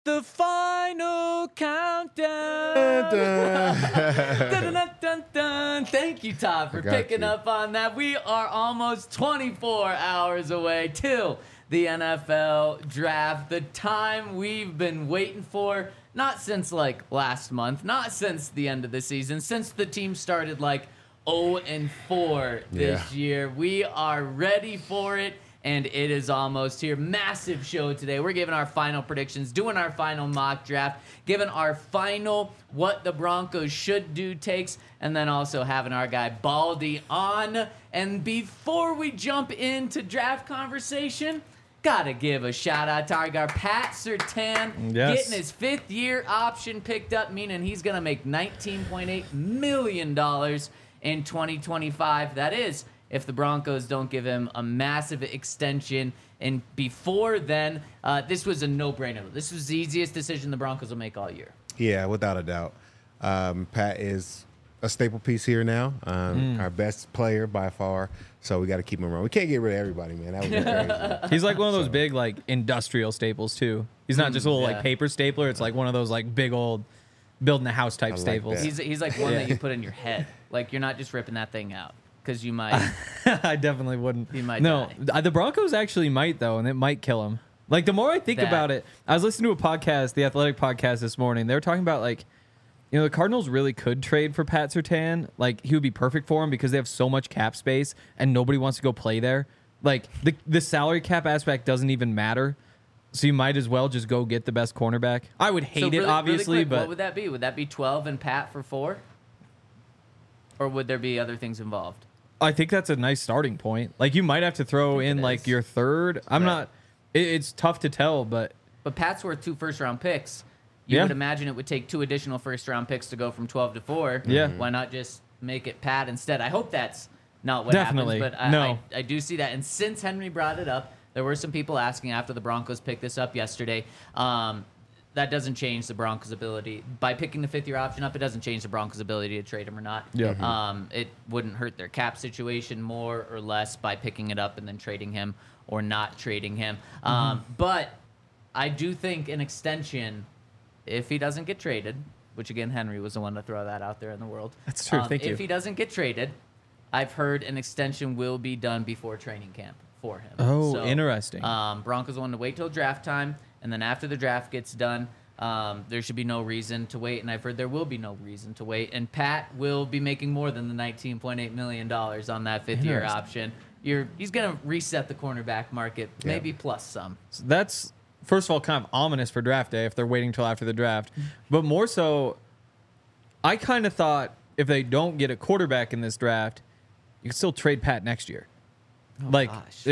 the final countdown. Dun, dun, dun, dun. Thank you, Todd, for picking up on that. We are almost 24 hours away till the NFL draft, the time we've been waiting for, not since like last month, not since the end of the season, since the team started like 0-4 this year. We are ready for it, and it is almost here. Massive show today. We're giving our final predictions, doing our final mock draft, giving our final what the Broncos should do takes, and then also having our guy Baldy on. And before we jump into draft conversation, gotta give a shout out to our guy Pat Surtain, getting his 5th-year option picked up, meaning he's gonna make $19.8 million in 2025. That is, if the Broncos don't give him a massive extension. And before then, this was a no-brainer. This was the easiest decision the Broncos will make all year. Yeah, without a doubt. Pat is a staple piece here now, our best player by far. So we got to keep him around. We can't get rid of everybody, man. That would be crazy. He's like one of those big like industrial staples too. He's not just a little like paper stapler. It's like one of those like big old building a house type staples. He's like one that you put in your head. Like you're not just ripping that thing out because you might. I definitely wouldn't. You might. No, die. The Broncos actually might though, and it might kill him. Like the more I think about it, I was listening to a podcast, the Athletic podcast this morning. They were talking about like, you know, the Cardinals really could trade for Pat Surtain. Like he would be perfect for him because they have so much cap space and nobody wants to go play there. Like the salary cap aspect doesn't even matter. So you might as well just go get the best cornerback. I would hate it, obviously, really quick, but what would that be? Would that be 12 and Pat for 4? Or would there be other things involved? I think that's a nice starting point. Like you might have to throw in like your third. I'm not. It's tough to tell, but Pat's worth 2 first-round picks. You would imagine it would take 2 additional first-round picks to go from 12 to 4. Yeah. Why not just make it Pat instead? I hope that's not what happens, but I do see that. And since Henry brought it up, there were some people asking after the Broncos picked this up yesterday. That doesn't change the Broncos' ability. By picking the 5th-year option up, it doesn't change the Broncos' ability to trade him or not. Yeah. It wouldn't hurt their cap situation more or less by picking it up and then trading him or not trading him. But I do think an extension, if he doesn't get traded, which again, Henry was the one to throw that out there in the world. That's true. Thank you. If he doesn't get traded, I've heard an extension will be done before training camp for him. Oh, so, interesting. Broncos want to wait till draft time, and then after the draft gets done, there should be no reason to wait, and I've heard there will be no reason to wait. And Pat will be making more than the $19.8 million on that 5th-year option. He's going to reset the cornerback market, maybe plus some. So that's, first of all, kind of ominous for draft day if they're waiting till after the draft. But more so, I kind of thought if they don't get a quarterback in this draft, you could still trade Pat next year. Gosh.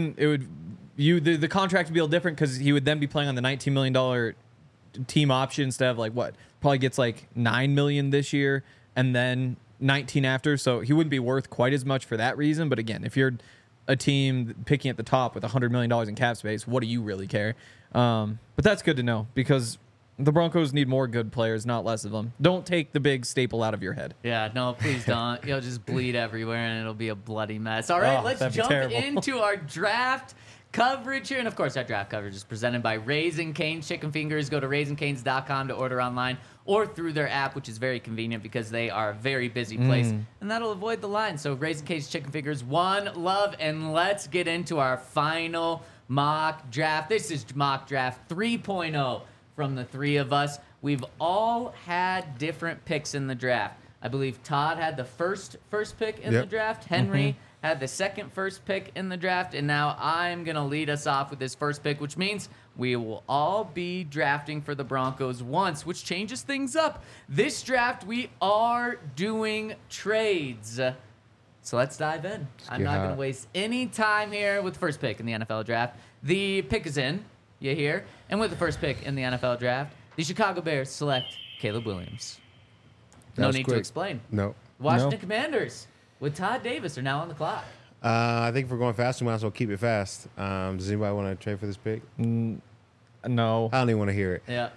The contract would be a little different because he would then be playing on the $19 million team option instead of like what probably gets like $9 million this year and then 19 after. So he wouldn't be worth quite as much for that reason. But again, if you're a team picking at the top with $100 million in cap space, what do you really care? But that's good to know because the Broncos need more good players, not less of them. Don't take the big staple out of your head. Yeah, no, please don't. You'll just bleed everywhere, and it'll be a bloody mess. All right, let's jump into our draft coverage here. And, of course, our draft coverage is presented by Raising Cane's Chicken Fingers. Go to RaisingCanes.com to order online or through their app, which is very convenient because they are a very busy place. And that'll avoid the line. So Raising Cane's Chicken Fingers, one love. And let's get into our final mock draft. This is mock draft 3.0. From the 3 of us. We've all had different picks in the draft. I believe Todd had the first pick in the draft. Henry had the second first pick in the draft. And now I'm going to lead us off with this first pick, which means we will all be drafting for the Broncos once, which changes things up. This draft, we are doing trades. So let's dive in. I'm not going to waste any time here with the first pick in the NFL draft. The pick is in. You hear? And with the first pick in the NFL draft, the Chicago Bears select Caleb Williams. No need to explain. No. Washington Commanders with Todd Davis are now on the clock. I think if we're going fast, we might as well keep it fast. Does anybody want to trade for this pick? No. I don't even want to hear it. Yeah,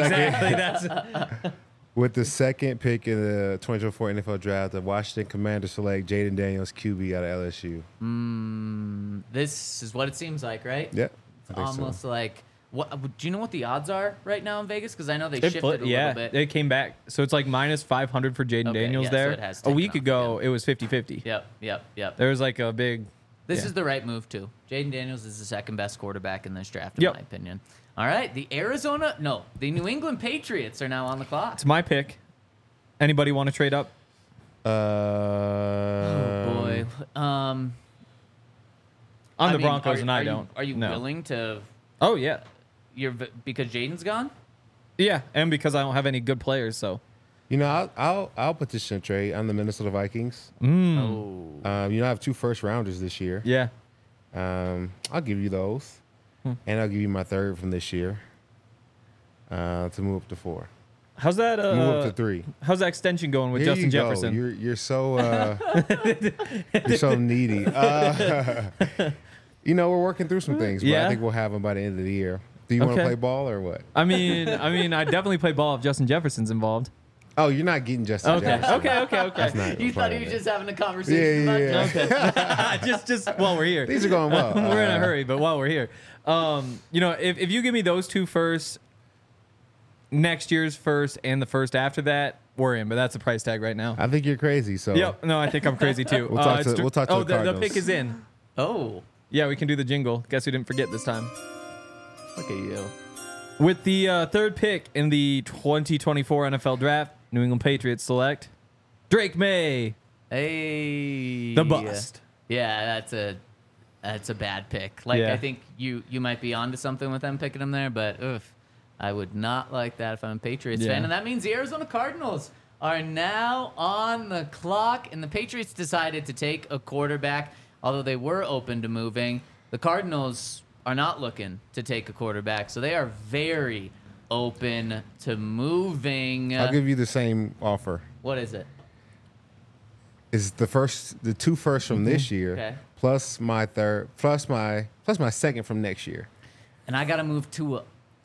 exactly. With the second pick in the 2024 NFL draft, the Washington Commanders select Jaden Daniels, QB out of LSU. This is what it seems like, right? Yeah. It's almost like What do you know what the odds are right now in Vegas? Because I know they shifted a little bit. It came back. So it's like minus 500 for Jaden Okay, Daniels yeah, so there. it has A taken week off ago, again. it was 50-50. Yep. There was like a big. This yeah. is the right move too. Jaden Daniels is the second best quarterback in this draft, in Yep. my opinion. All right, the New England Patriots are now on the clock. It's my pick. Anybody want to trade up? Oh boy. I'm I the mean, Broncos, and I don't. Are you No. willing to? Oh yeah, Because Jaden's gone. yeah, and because I don't have any good players, so. You know, I'll petition a trade on the Minnesota Vikings. Oh. You know, I have 2 first rounders this year. Yeah. I'll give you those, and I'll give you my third from this year to move up to 4. How's that? Move up to 3. How's that extension going with Here Justin you go. Jefferson? You're so you're so needy. You know, we're working through some things, but Yeah. I think we'll have them by the end of the year. Do you want Okay. to play ball or what? I mean, I definitely play ball if Justin Jefferson's involved. Oh, you're not getting Justin Okay, Jefferson. okay. That's not You thought part he of was it. just having a conversation Yeah. about Justin? just while we're here. These are going well. We're in a hurry, but while we're here, you know, if you give me those 2 first, next year's first, and the first after that, we're in. But that's a price tag right now. I think you're crazy. So Yep. No, I think I'm crazy too. We'll talk it's to- we'll talk to oh, the the Cardinals. pick is in. Oh, Yeah, we can do the jingle. Guess we didn't forget this time. look at you. With the third pick in the 2024 NFL Draft, New England Patriots select Drake May, Hey. the bust. Yeah, that's a bad pick. Like Yeah. I think you might be onto something with them picking him there, but I would not like that if I'm a Patriots Yeah. fan. And that means the Arizona Cardinals are now on the clock, and the Patriots decided to take a quarterback, although they were open to moving. The Cardinals are not looking to take a quarterback, so they are very open to moving. I'll give you the same offer. What is it? Is the 2 firsts from this year Okay. plus my third plus my second from next year. And I got to move to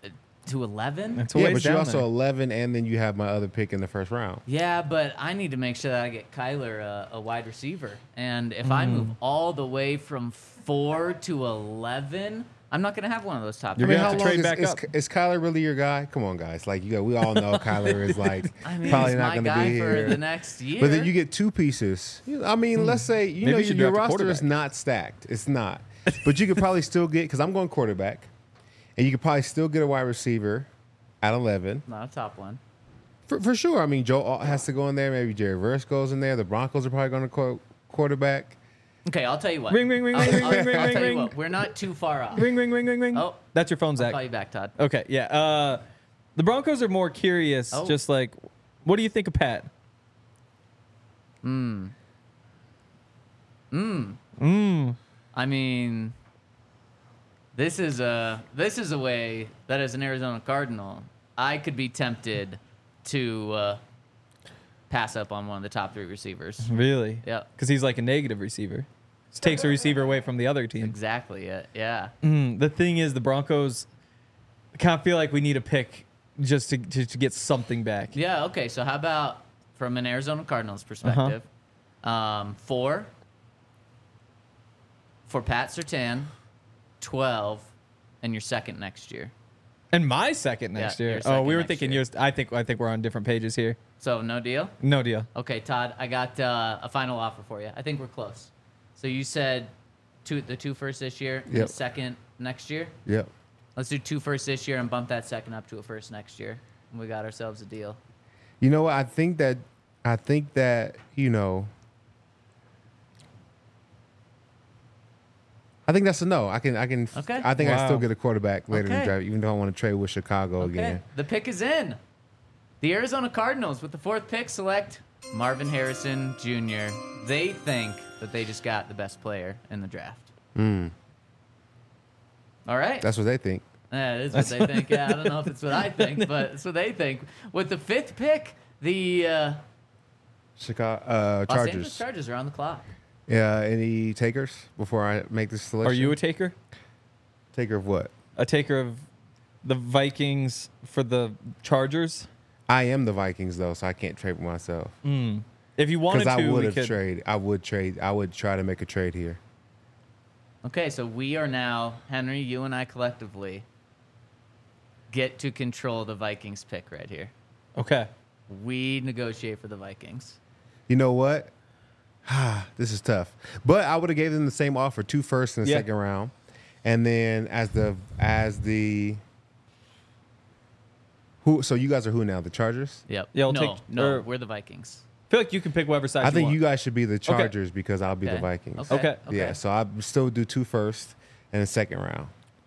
11. It's a Yeah, ways but you're down also there. 11, and then you have my other pick in the first round. Yeah, but I need to make sure that I get Kyler a wide receiver. And if I move all the way from 4 to 11, I'm not going to have one of those top You're three. gonna have to trade back up. Is Kyler really your guy? Come on, guys. Like we all know Kyler is like I mean, probably he's not my going to guy be for here. the next year. But then you get 2 pieces. I mean, let's say Maybe you should your draft a roster is quarterback. not stacked. It's not. But you could probably still get, because I'm going quarterback, and you could probably still get a wide receiver at 11 Not a top one. for sure. I mean, Joe Alt has to go in there. Maybe Jerry Verse goes in there. The Broncos are probably going to quarterback. Okay, I'll tell you what. Ring, ring, ring, I'll, ring, I'll- ring, ring, I'll ring, tell you ring. what. We're not too far off. Ring, ring, ring, ring, ring. Oh. That's your phone, I'll Zach. call you back, Todd. Okay, yeah. The Broncos are more curious. Oh. Just like, what do you think of Pat? I mean, this is a way that as an Arizona Cardinal, I could be tempted to pass up on one of the top 3 receivers. Really? Yeah, Because he's like a negative receiver. Just takes a receiver away from the other team. exactly. Yeah. The thing is, the Broncos kind of feel like we need a pick just to get something back. Yeah. Okay. So how about from an Arizona Cardinals perspective, 4 for Pat Surtain, 12, and your second next year. And my second next Yeah, year. your Oh, second we were next thinking year. yours. I think we're on different pages here. So no deal. No deal. Okay, Todd, I got a final offer for you. I think we're close. So you said the 2 first this year, and Yep. the second next year. Yep. Let's do 2 first this year and bump that second up to a first next year, and we got ourselves a deal. You know what? I think that you know. I think that's a no. I can. Okay. I think I Wow. still get a quarterback later in Okay. the draft, even though I want to trade with Chicago Okay, again. the pick is in. The Arizona Cardinals with the 4th pick select Marvin Harrison Jr. They think that they just got the best player in the draft. All right. That's what they think. Yeah, it is what they think. Yeah, I don't know if it's what I think, but it's what they think. With the 5th pick, the Chicago Los Chargers. Angeles Chargers are on the clock. Yeah. Any takers before I make this selection? Are you a taker? taker of what? A taker of the Vikings for the Chargers? I am the Vikings though, so I can't trade with myself. If you wanted Because to, I would we have could. trade. I would trade. I would try to make a trade here. Okay, so we are now, Henry, you and I collectively, get to control the Vikings pick right here. Okay. We negotiate for the Vikings. You know what? This is tough. But I would have gave them the same offer, 2 firsts in the Yeah. second round. And then so you guys are who now? The Chargers? Yep. Yeah, I'll no, take- no, or- we're the Vikings. I feel like you can pick whatever side I think want. you guys should be the Chargers because I'll be the Okay. Vikings. Okay. Yeah, so I still do 2 firsts and a second round.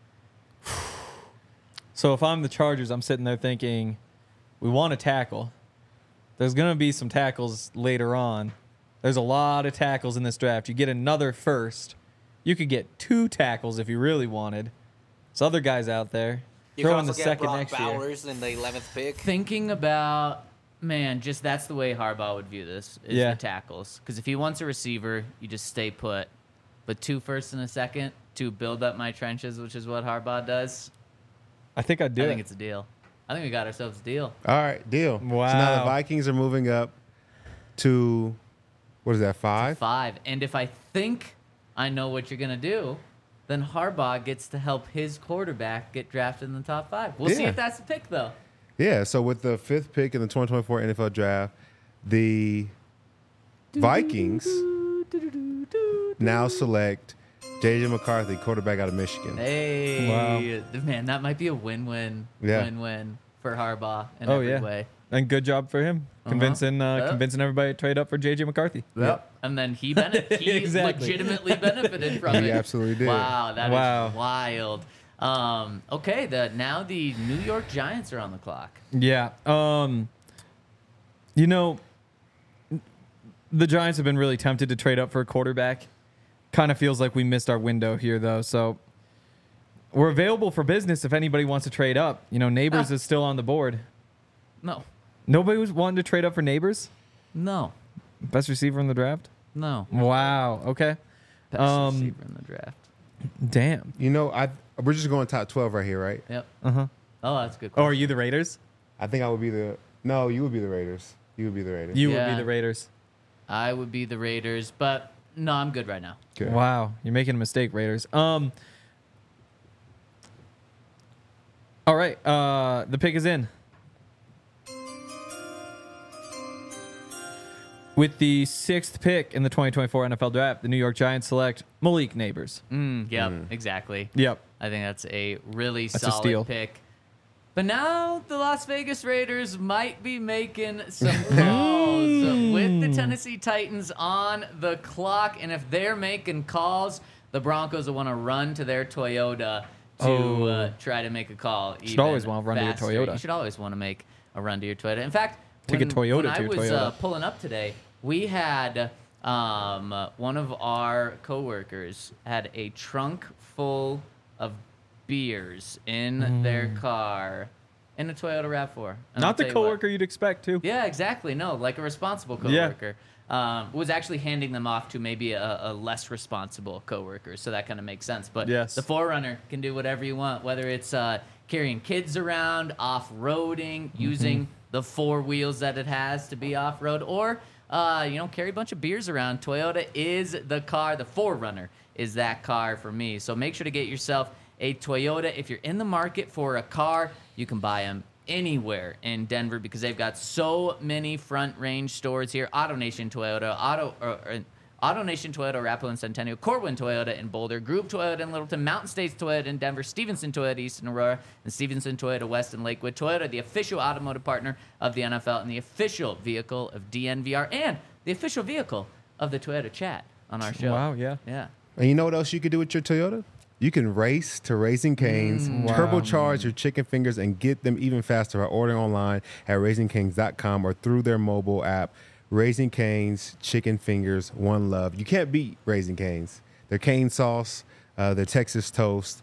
So if I'm the Chargers, I'm sitting there thinking, we want to tackle. There's going to be some tackles later on. There's a lot of tackles in this draft. You get another first. You could get 2 tackles if you really wanted. There's other guys out there. You Throw can in the also get second Brock next year. Bowers in the 11th pick. Thinking about, man, just that's the way Harbaugh would view this, is Yeah. the tackles. Because if he wants a receiver, you just stay put. But 2 firsts and a second to build up my trenches, which is what Harbaugh does, I think I'd do I it. think it's a deal. I think we got ourselves a deal. All right, deal. So now Wow. the Vikings are moving up to, what is that, 5? 5. And if I think I know what you're going to do, then Harbaugh gets to help his quarterback get drafted in the top 5. We'll see Yeah. if that's the pick, though. Yeah, so with the 5th pick in the 2024 NFL draft, the Vikings now select J.J. McCarthy, quarterback out of Michigan. Hey, Wow. man, that might be a win-win, Yeah. win-win for Harbaugh in Oh, every yeah. way. And good job for him. Convincing Yep. convincing everybody to trade up for J.J. McCarthy. Yep. And then he Exactly. legitimately benefited from He it. absolutely did. Wow, that is Wow. wild. Okay, now the New York Giants are on the clock. Yeah. You know, the Giants have been really tempted to trade up for a quarterback. Kind of feels like we missed our window here, though. So we're available for business if anybody wants to trade up. You know, Neighbors is still on the board. No, Nobody was wanting to trade up for Neighbors? no, Best receiver in the draft? no. Wow. Okay. Best receiver in the draft. Damn. You know, we're just going top 12 right here, right? Yep. Uh-huh. Oh, that's a good. Oh, are Question. you the Raiders? I think I would be no, you would be the Raiders. You would be the Raiders. You would Yeah. be the Raiders. I would be the Raiders, but no, I'm good right now. Okay. Wow, you're making a mistake, Raiders. All right, the pick is in. With the 6th pick in the 2024 NFL Draft, the New York Giants select Malik Neighbors. Yep, exactly. Yep. I think that's a really That's a solid steal. pick. But now the Las Vegas Raiders might be making some calls with the Tennessee Titans on the clock. And if they're making calls, the Broncos will want to run to their Toyota to try to make a call. Should always wanna run to your faster. Toyota. You should always want to make a run to your Toyota. In fact, Take a Toyota when to I your was Toyota. pulling up today, we had one of our coworkers had a trunk full of beers in their car in a Toyota RAV4. And I'll Not the tell you what. coworker you'd expect to. Yeah, exactly. No, like a responsible Yeah. coworker. Was actually handing them off to maybe a less responsible coworker, so that kind of makes sense. But Yes. the 4Runner can do whatever you want, whether it's carrying kids around, off-roading, using the 4 wheels that it has to be off-road, or carry a bunch of beers around. Toyota is the car. The 4Runner is that car for me. So make sure to get yourself a Toyota. If you're in the market for a car, you can buy them anywhere in Denver because they've got so many front range stores here. AutoNation Toyota, AutoNation Toyota, Arapahoe and Centennial, Corwin Toyota in Boulder, Group Toyota in Littleton, Mountain States Toyota in Denver, Stevenson Toyota East in Aurora, and Stevenson Toyota West in Lakewood. Toyota, the official automotive partner of the NFL and the official vehicle of DNVR and the official vehicle of the Toyota Chat on our show. Wow, yeah. Yeah. And you know what else you could do with your Toyota? You can race to Raising Cane's, turbocharge your chicken fingers, and get them even faster by ordering online at RaisingCanes.com or through their mobile app. Raising Cane's chicken fingers, one love. You can't beat Raising Cane's. Their cane sauce, their Texas toast.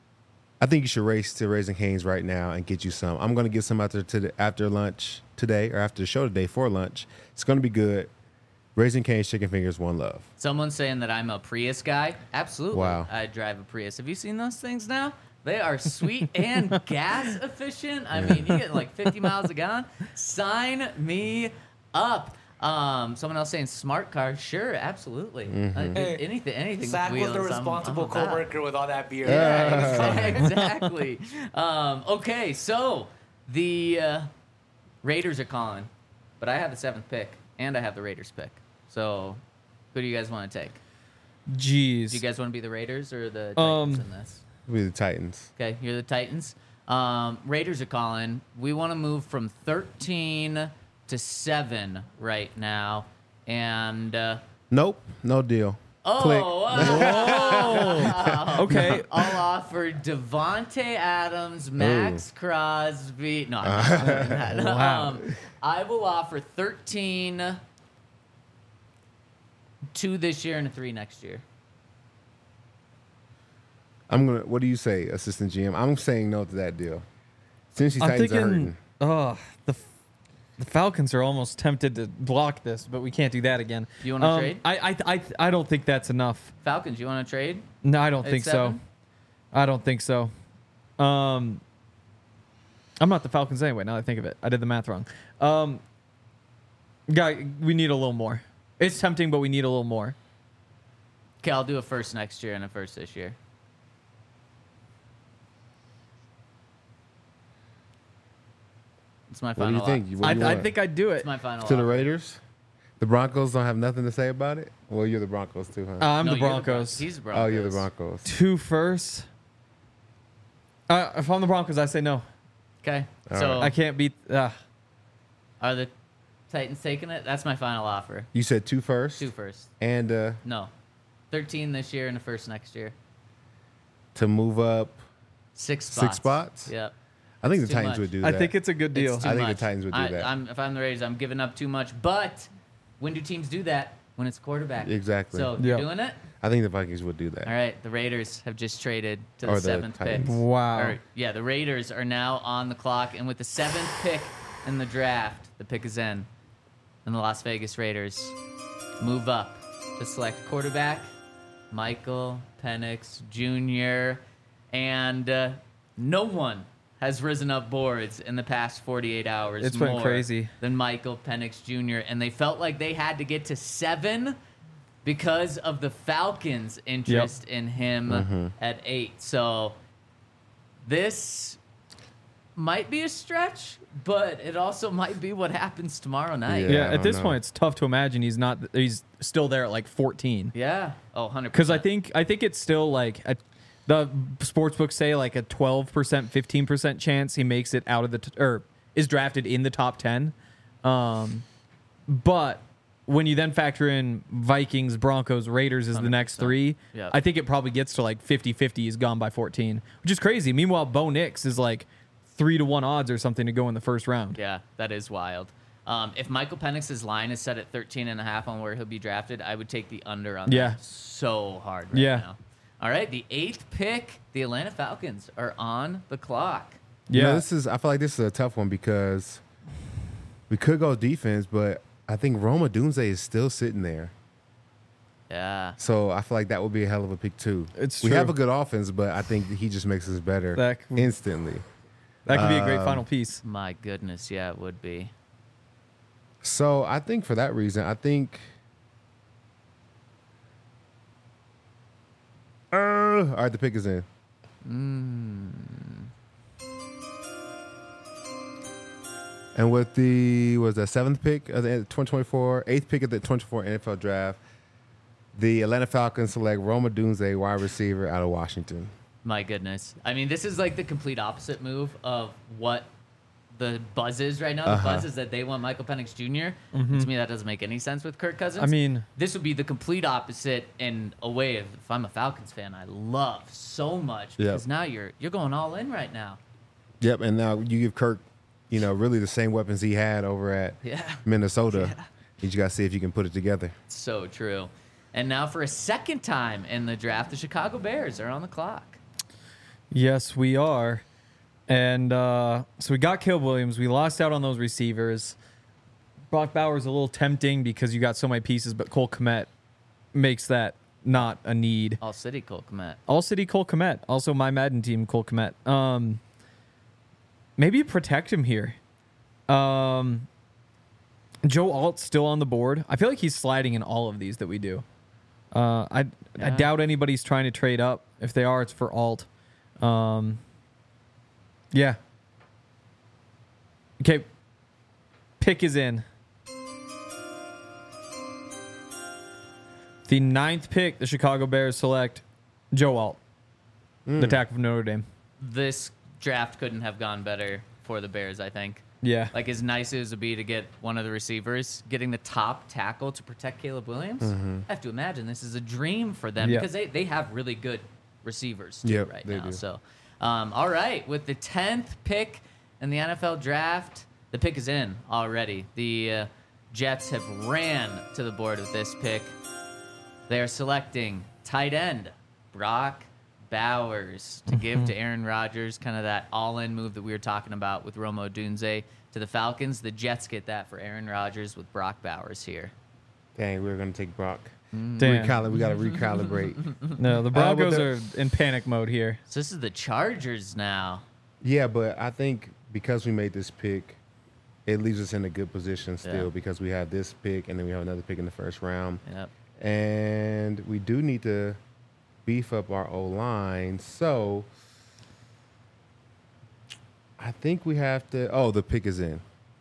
I think you should race to Raising Cane's right now and get you some. I'm going to get some after lunch today, or after the show today for lunch. It's going to be good. Raising Cane's chicken fingers, one love. Someone's saying that I'm a Prius guy. Absolutely. Wow. I drive a Prius. Have you seen those things now? They are sweet and gas efficient. I mean, you get like 50 miles a gallon. Sign me up. Someone else saying smart car. Sure, absolutely. Anything. Zach with was the wheels, responsible I'm about. coworker with all that beer. Yeah, exactly. Okay, so the Raiders are calling, but I have the 7th pick, and I have the Raiders pick. So, who do you guys want to take? Jeez. Do you guys want to be the Raiders or the Titans in this? We're the Titans. Okay, you're the Titans. Raiders are calling. We want to move from 13 to 7 right now, and Nope, no deal. Click. wow. Okay. I'll offer Devontae Adams, Max Crosby. No, I'm not doing that. Wow. I will offer 13, 2 this year and a 3 next year. What do you say, assistant GM? I'm saying no to that deal. Since these I'm Titans are thinking, hurting. the Falcons are almost tempted to block this, but we can't do that again. You wanna trade? I don't think that's enough. Falcons, you want to trade? No, I don't At think so. 7? I don't think so. I'm not the Falcons anyway. Now that I think of it, I did the math wrong. Guy, we need a little more. It's tempting, but we need a little more. Okay, I'll do a 1st next year and a 1st this year. It's my What do final. you think? What do you I want? think I'd do it. It's my final. To the offer. Raiders? The Broncos don't have nothing to say about it? Well, you're the Broncos too, huh? I'm No, the you're Broncos. He's the Broncos. Oh, you're the Broncos. 2 firsts. If I'm the Broncos, I say no. Okay, All so I can't beat. are the Titans taking it? That's my final offer. You said 2 first? 2 first. And No, 13 this year and a 1st next year. to move up, 6 spots. 6 spots? Yep. I think It's the too Titans much. would do I that. think it's a good deal. It's too I think the much. Titans would do that. If I'm the Raiders, I'm giving up too much. But when do teams do that? When it's quarterback. Exactly. So Yeah. you're doing it? I think the Vikings would do that. All right. The Raiders have just traded to the Or the 7th pick. Titans. Wow. Or, yeah, the Raiders are now on the clock, and with the 7th pick in the draft, the pick is in, and the Las Vegas Raiders move up to select quarterback Michael Penix Jr. And no one has risen up boards in the past 48 hours. It's been more crazy. than Michael Penix Jr. And they felt like they had to get to 7 because of the Falcons' interest in him at 8. So this might be a stretch, but it also might be what happens tomorrow night. Yeah, Yeah, I at this don't know. point, it's tough to imagine he's still there at like 14. Yeah. Oh, 100%. Because I think it's still like the sports books say like a 12%, 15% chance he makes it out of or is drafted in the top 10. But when you then factor in Vikings, Broncos, Raiders as the next 3, Yeah. I think it probably gets to like 50-50. He's gone by 14, which is crazy. Meanwhile, Bo Nix is like 3-1 odds or something to go in the first round. Yeah, that is wild. If Michael Penix's line is set at 13.5 on where he'll be drafted, I would take the under on Yeah. that so hard right Yeah. now. All right, the 8th pick, the Atlanta Falcons are on the clock. You Yeah. know, I feel like this is a tough one because we could go defense, but I think Roma Dunze is still sitting there. Yeah. So I feel like that would be a hell of a pick too. It's we true. have a good offense, but I think he just makes us better That- instantly. That could be a great final piece. My goodness, yeah, it would be. So I think for that reason, I think. All right, the pick is in. And with the 7th pick of the 2024, 8th pick of the 2024 NFL Draft, the Atlanta Falcons select Roma Dunze, wide receiver out of Washington. My goodness. I mean, this is like the complete opposite move of what the buzz is right now. The buzz is that they want Michael Penix Jr. To me, that doesn't make any sense with Kirk Cousins. I mean, this would be the complete opposite in a way. If I'm a Falcons fan, I love so much because now you're going all in right now. Yep, and now you give Kirk, really the same weapons he had over at Minnesota. You just got to see if you can put it together. So true. And now for a second time in the draft, the Chicago Bears are on the clock. yes, we are. And so we got Caleb Williams. We lost out on those receivers. Brock Bowers a little tempting because you got so many pieces, but Cole Kmet makes that not a need. All City Cole Kmet. All City Cole Kmet. Also my Madden team, Cole Kmet. Maybe protect him here. Joe Alt's still on the board. I feel like he's sliding in all of these that we do. I doubt anybody's trying to trade up. If they are, it's for Alt. Yeah. Okay. Pick is in. The 9th pick, the Chicago Bears select Joe Alt, the tackle from Notre Dame. This draft couldn't have gone better for the Bears, I think. Yeah. Like, as nice as it would be to get one of the receivers, getting the top tackle to protect Caleb Williams, I have to imagine this is a dream for them because they have really good receivers too right now. Do. So, all right, with the 10th pick in the NFL draft, the pick is in already. The Jets have ran to the board with this pick. They are selecting tight end Brock Bowers to give to Aaron Rodgers, kind of that all-in move that we were talking about with Rome Odunze to the Falcons. The Jets get that for Aaron Rodgers with Brock Bowers here. Dang, we were going to take Brock. Damn. We got to recalibrate. No, the Broncos are in panic mode here. So this is the Chargers now. Yeah, but I think because we made this pick, it leaves us in a good position still because we have this pick and then we have another pick in the first round. Yep. And we do need to beef up our O-line. So I think we have to... Oh, the pick is in.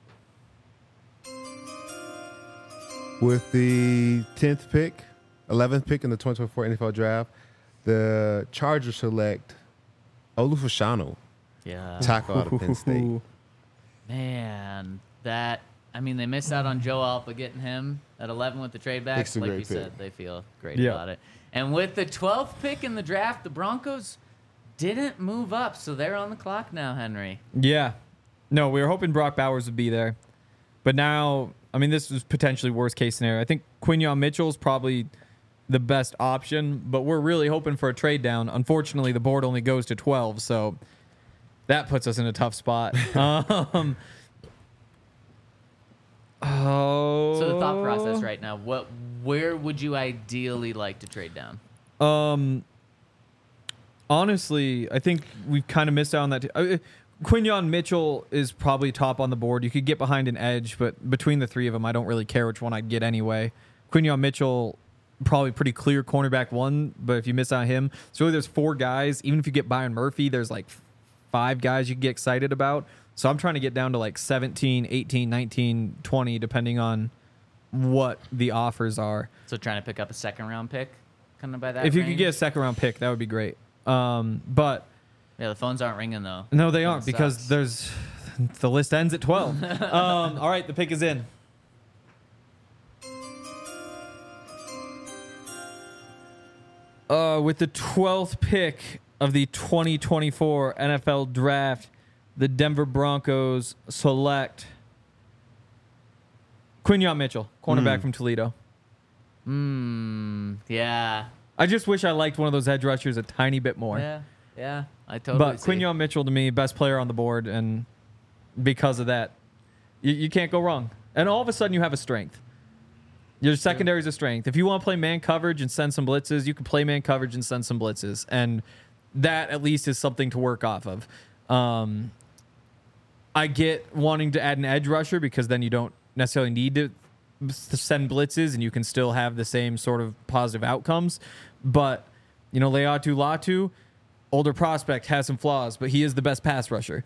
With the 10th pick, 11th pick in the 2024 NFL Draft, the Chargers select Olu Fashanu, Yeah. tackle out of Penn State. Man, they missed out on Joe Alpa getting him at 11 with the trade back. It's a Like great you pick. said, they feel great Yeah. about it. And with the 12th pick in the draft, the Broncos didn't move up, so they're on the clock now, Henry. Yeah. No, we were hoping Brock Bowers would be there. But now, I mean, this was potentially worst case scenario. I think Quinyon Mitchell's probably the best option, but we're really hoping for a trade down. Unfortunately, the board only goes to 12, so that puts us in a tough spot. So So the thought process right now, where would you ideally like to trade down? Honestly, I think we've kind of missed out on that. Quinyon Mitchell is probably top on the board. You could get behind an edge, but between the three of them, I don't really care which one I'd get anyway. Quinyon Mitchell, probably pretty clear cornerback one, but if you miss out on him, so really there's 4 guys. Even if you get Byron Murphy, there's like 5 guys you can get excited about. So I'm trying to get down to like 17, 18, 19, 20, depending on what the offers are. So trying to pick up a second-round pick, kind of by that If you range? could get a second-round pick, that would be great. But Yeah, the phones aren't ringing, though. no, they That aren't because sucks. the list ends at 12. All right, the pick is in. With the 12th pick of the 2024 NFL Draft, the Denver Broncos select Quinyon Mitchell, cornerback from Toledo. Yeah. I just wish I liked one of those edge rushers a tiny bit more. Yeah, I totally But see. Quinyon Mitchell, to me, best player on the board, and because of that, you can't go wrong. And all of a sudden, you have a strength. Your secondary is a strength. If you want to play man coverage and send some blitzes, you can play man coverage and send some blitzes, and that at least is something to work off of. I get wanting to add an edge rusher because then you don't necessarily need to send blitzes, and you can still have the same sort of positive outcomes. But Leatu Latu, older prospect, has some flaws, but he is the best pass rusher.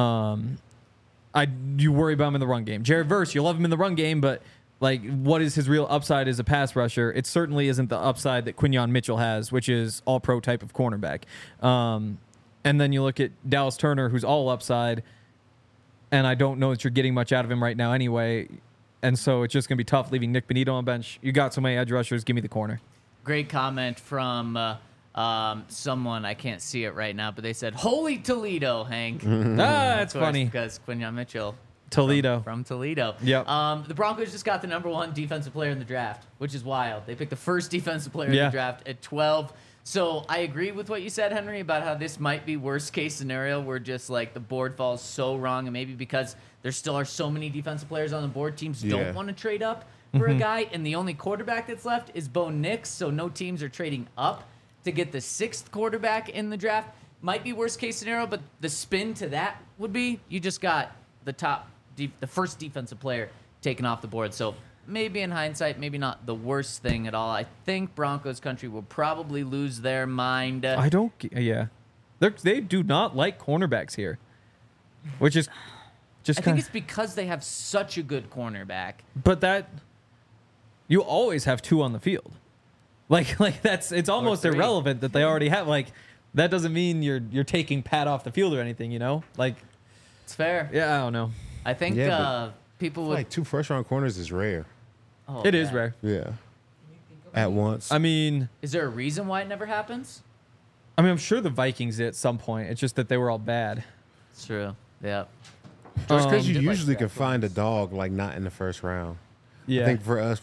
You worry about him in the run game. Jared Verse, you love him in the run game, but what is his real upside as a pass rusher? It certainly isn't the upside that Quinyon Mitchell has, which is all pro type of cornerback. And then you look at Dallas Turner, who's all upside, and I don't know that you're getting much out of him right now anyway. And so it's just going to be tough leaving Nick Benito on the bench. You got so many edge rushers. Give me the corner. Great comment from someone. I can't see it right now, but they said, "Holy Toledo, Hank." That's Of course, funny. because Quinyon Mitchell, Toledo. from Toledo. Yep. The Broncos just got the number 1 defensive player in the draft, which is wild. They picked the first defensive player in Yeah. the draft at 12. So I agree with what you said, Henry, about how this might be worst case scenario where just the board falls so wrong, and maybe because there still are so many defensive players on the board, teams Yeah. don't want to trade up for a guy, and the only quarterback that's left is Bo Nix, so no teams are trading up to get the 6th quarterback in the draft. Might be worst case scenario, but the spin to that would be you just got the first defensive player taken off the board. So maybe in hindsight, maybe not the worst thing at all. I think Broncos country will probably lose their mind. I don't. Yeah, they do not like cornerbacks here, which is just. I think it's because they have such a good cornerback. But that you always have two on the field. Like that's it's almost irrelevant that they already have. Like that doesn't mean you're taking Pat off the field or anything. You know, like It's fair. yeah, I don't know. I think Yeah, people would. Like 2 first-round corners is rare. Oh, It is man. rare. Yeah. At once. I mean, Is there a reason why it never happens? I'm sure the Vikings did at some point. It's just that they were all bad. It's true. Yeah. Just because you did like usually can draft find a dog like not in the first round. Yeah. I think for us,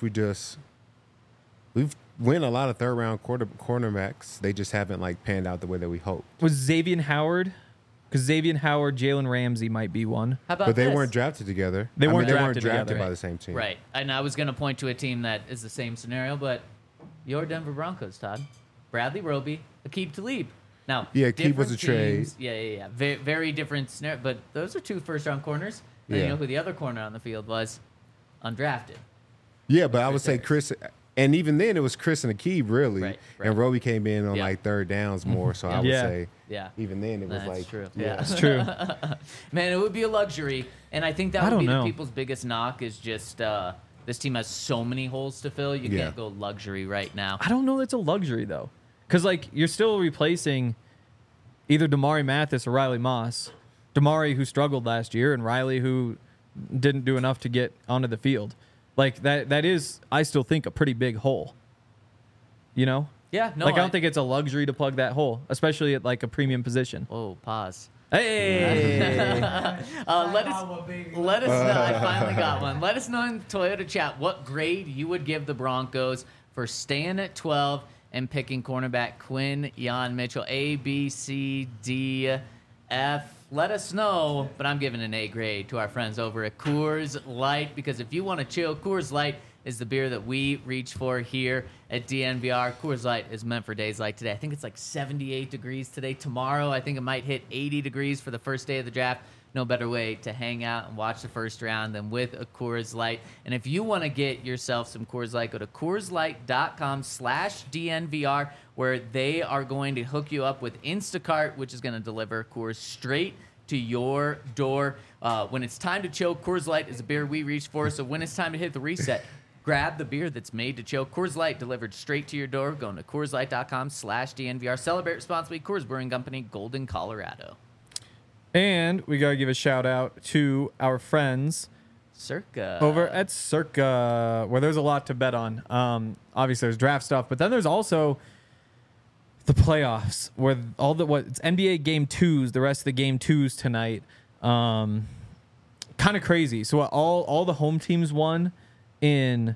we've win a lot of third-round cornerbacks. They just haven't like panned out the way that we hoped. Was Xavier Howard? Because Xavier Howard, Jalen Ramsey might be one. How about But they this? weren't drafted together. They weren't they drafted weren't drafted together. by the same team. Right. And I was going to point to a team that is the same scenario, but your Denver Broncos, Todd. Bradley Roby, Aqib Talib. Now, Yeah, Aqib was different a teams. Yeah. Very, very different scenario. But those are 2 first-round corners. And Yeah. you know who the other corner on the field was? Undrafted. Yeah, but I would say there. Chris, and even then it was Chris and Aqib really, Right. and Roby came in on Yeah. like third downs more. So I would Yeah. say Yeah. even then it was That's like true. Yeah. It's true. Man, it would be a luxury, and I think that I would don't be know. the people's biggest knock is just this team has so many holes to fill. You Yeah. can't go luxury right now. I don't know that's a luxury though, because like you're still replacing either Damari Mathis or Riley Moss. Damari who struggled last year, and Riley who didn't do enough to get onto the field. Like that is, I still think, a pretty big hole. You know? Yeah, no. Like I don't think it's a luxury to plug that hole, especially at like a premium position. Whoa, pause. Hey, Let us know. I finally got one. Let us know in the Toyota chat what grade you would give the Broncos for staying at 12 and picking cornerback Quinn Jan Mitchell. A, B, C, D, F. Let us know. But I'm giving an A grade to our friends over at Coors Light, because if you want to chill, Coors Light is the beer that we reach for here at DNVR. Coors Light is meant for days like today. I think it's like 78 degrees today. Tomorrow, I think it might hit 80 degrees for the first day of the draft. No better way to hang out and watch the first round than with a Coors Light. And if you want to get yourself some Coors Light, go to CoorsLight.com/DNVR, where they are going to hook you up with Instacart, which is going to deliver Coors straight to your door. When it's time to chill, Coors Light is a beer we reach for. So when it's time to hit the reset, grab the beer that's made to chill. Coors Light delivered straight to your door. Going to CoorsLight.com/DNVR. Celebrate responsibly. Coors Brewing Company, Golden, Colorado. and we gotta give a shout out to our friends Circa. over at Circa, where there's a lot to bet on. Obviously, there's draft stuff, but then there's also the playoffs, where it's NBA game 2s, the rest of the game 2s tonight. Kind of crazy. So all the home teams won in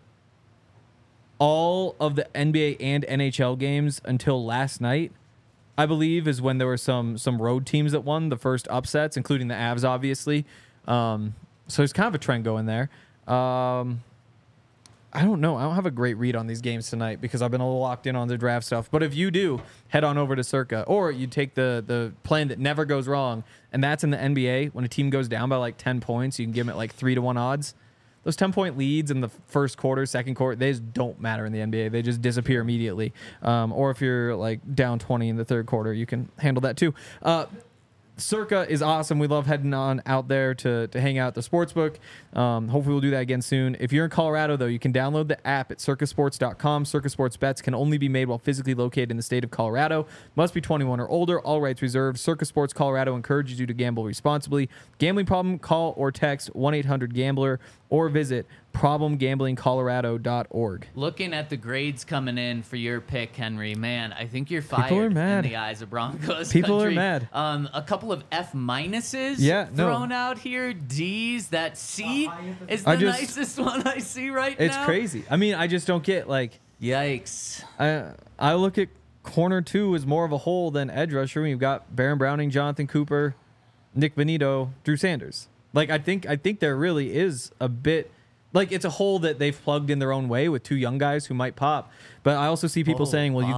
all of the NBA and NHL games until last night, I believe, is when there were some road teams that won the first upsets, including the Avs, obviously. So there's kind of a trend going there. I don't know. I don't have a great read on these games tonight because I've been a little locked in on the draft stuff. But if you do, head on over to Circa. Or you take the plan that never goes wrong, and that's in the NBA. When a team goes down by like 10 points, you can give them at like 3-1 odds. Those 10-point leads in the first quarter, second quarter, they just don't matter in the NBA. They just disappear immediately. Or if you're like down 20 in the third quarter, you can handle that too. Circa is awesome. We love heading on out there to hang out at the sportsbook. Hopefully we'll do that again soon. If you're in Colorado, though, you can download the app at circasports.com. Circa Sports bets can only be made while physically located in the state of Colorado. Must be 21 or older. All rights reserved. Circa Sports Colorado encourages you to gamble responsibly. Gambling problem? Call or text 1-800-GAMBLER or visit problemgamblingcolorado.org. Looking at the grades coming in for your pick, Henry, man, I think you're fired People are mad. in the eyes of Broncos People are country. mad. A couple of F minuses thrown out here. D's. That C is the nicest one I see right now. It's crazy. I mean, I just don't get like. Yikes. I look at corner 2 as more of a hole than edge rusher. We've got Baron Browning, Jonathan Cooper, Nick Benito, Drew Sanders. Like I think there really is a bit like it's a hole that they've plugged in their own way with 2 young guys who might pop. But I also see people saying, well,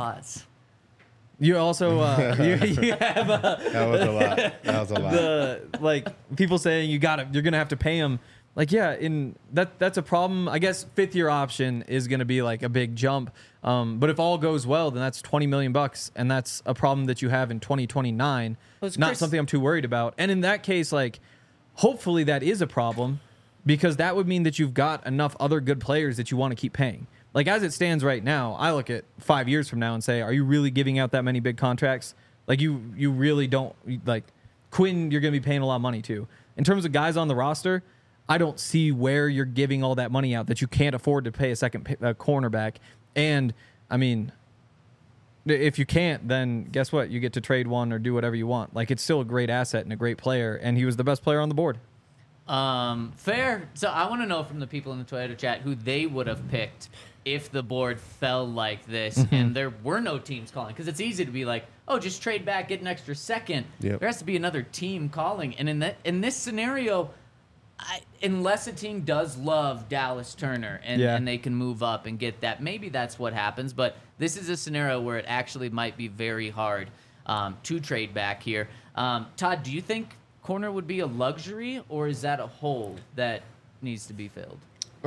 you also you have That was a lot. the like people saying you're gonna have to pay him Like, yeah, that's a problem. I guess 5th-year option is going to be like a big jump. But if all goes well, then that's $20 million, and that's a problem that you have in 2029. Not something I'm too worried about. And in that case, like, hopefully that is a problem, because that would mean that you've got enough other good players that you want to keep paying. Like, as it stands right now, I look at 5 years from now and say, are you really giving out that many big contracts? Like, you really don't. Like, Quinn, you're going to be paying a lot of money to. In terms of guys on the roster, I don't see where you're giving all that money out that you can't afford to pay a second cornerback. And, I mean, if you can't, then guess what? You get to trade one or do whatever you want. Like, it's still a great asset and a great player, and he was the best player on the board. Fair. So I want to know from the people in the Toyota chat who they would have picked if the board fell like this and there were no teams calling. Because it's easy to be like, oh, just trade back, get an extra second. Yep. There has to be another team calling. And in this scenario, unless a team does love Dallas Turner and they can move up and get that, maybe that's what happens. But this is a scenario where it actually might be very hard to trade back here. Todd, do you think corner would be a luxury, or is that a hole that needs to be filled?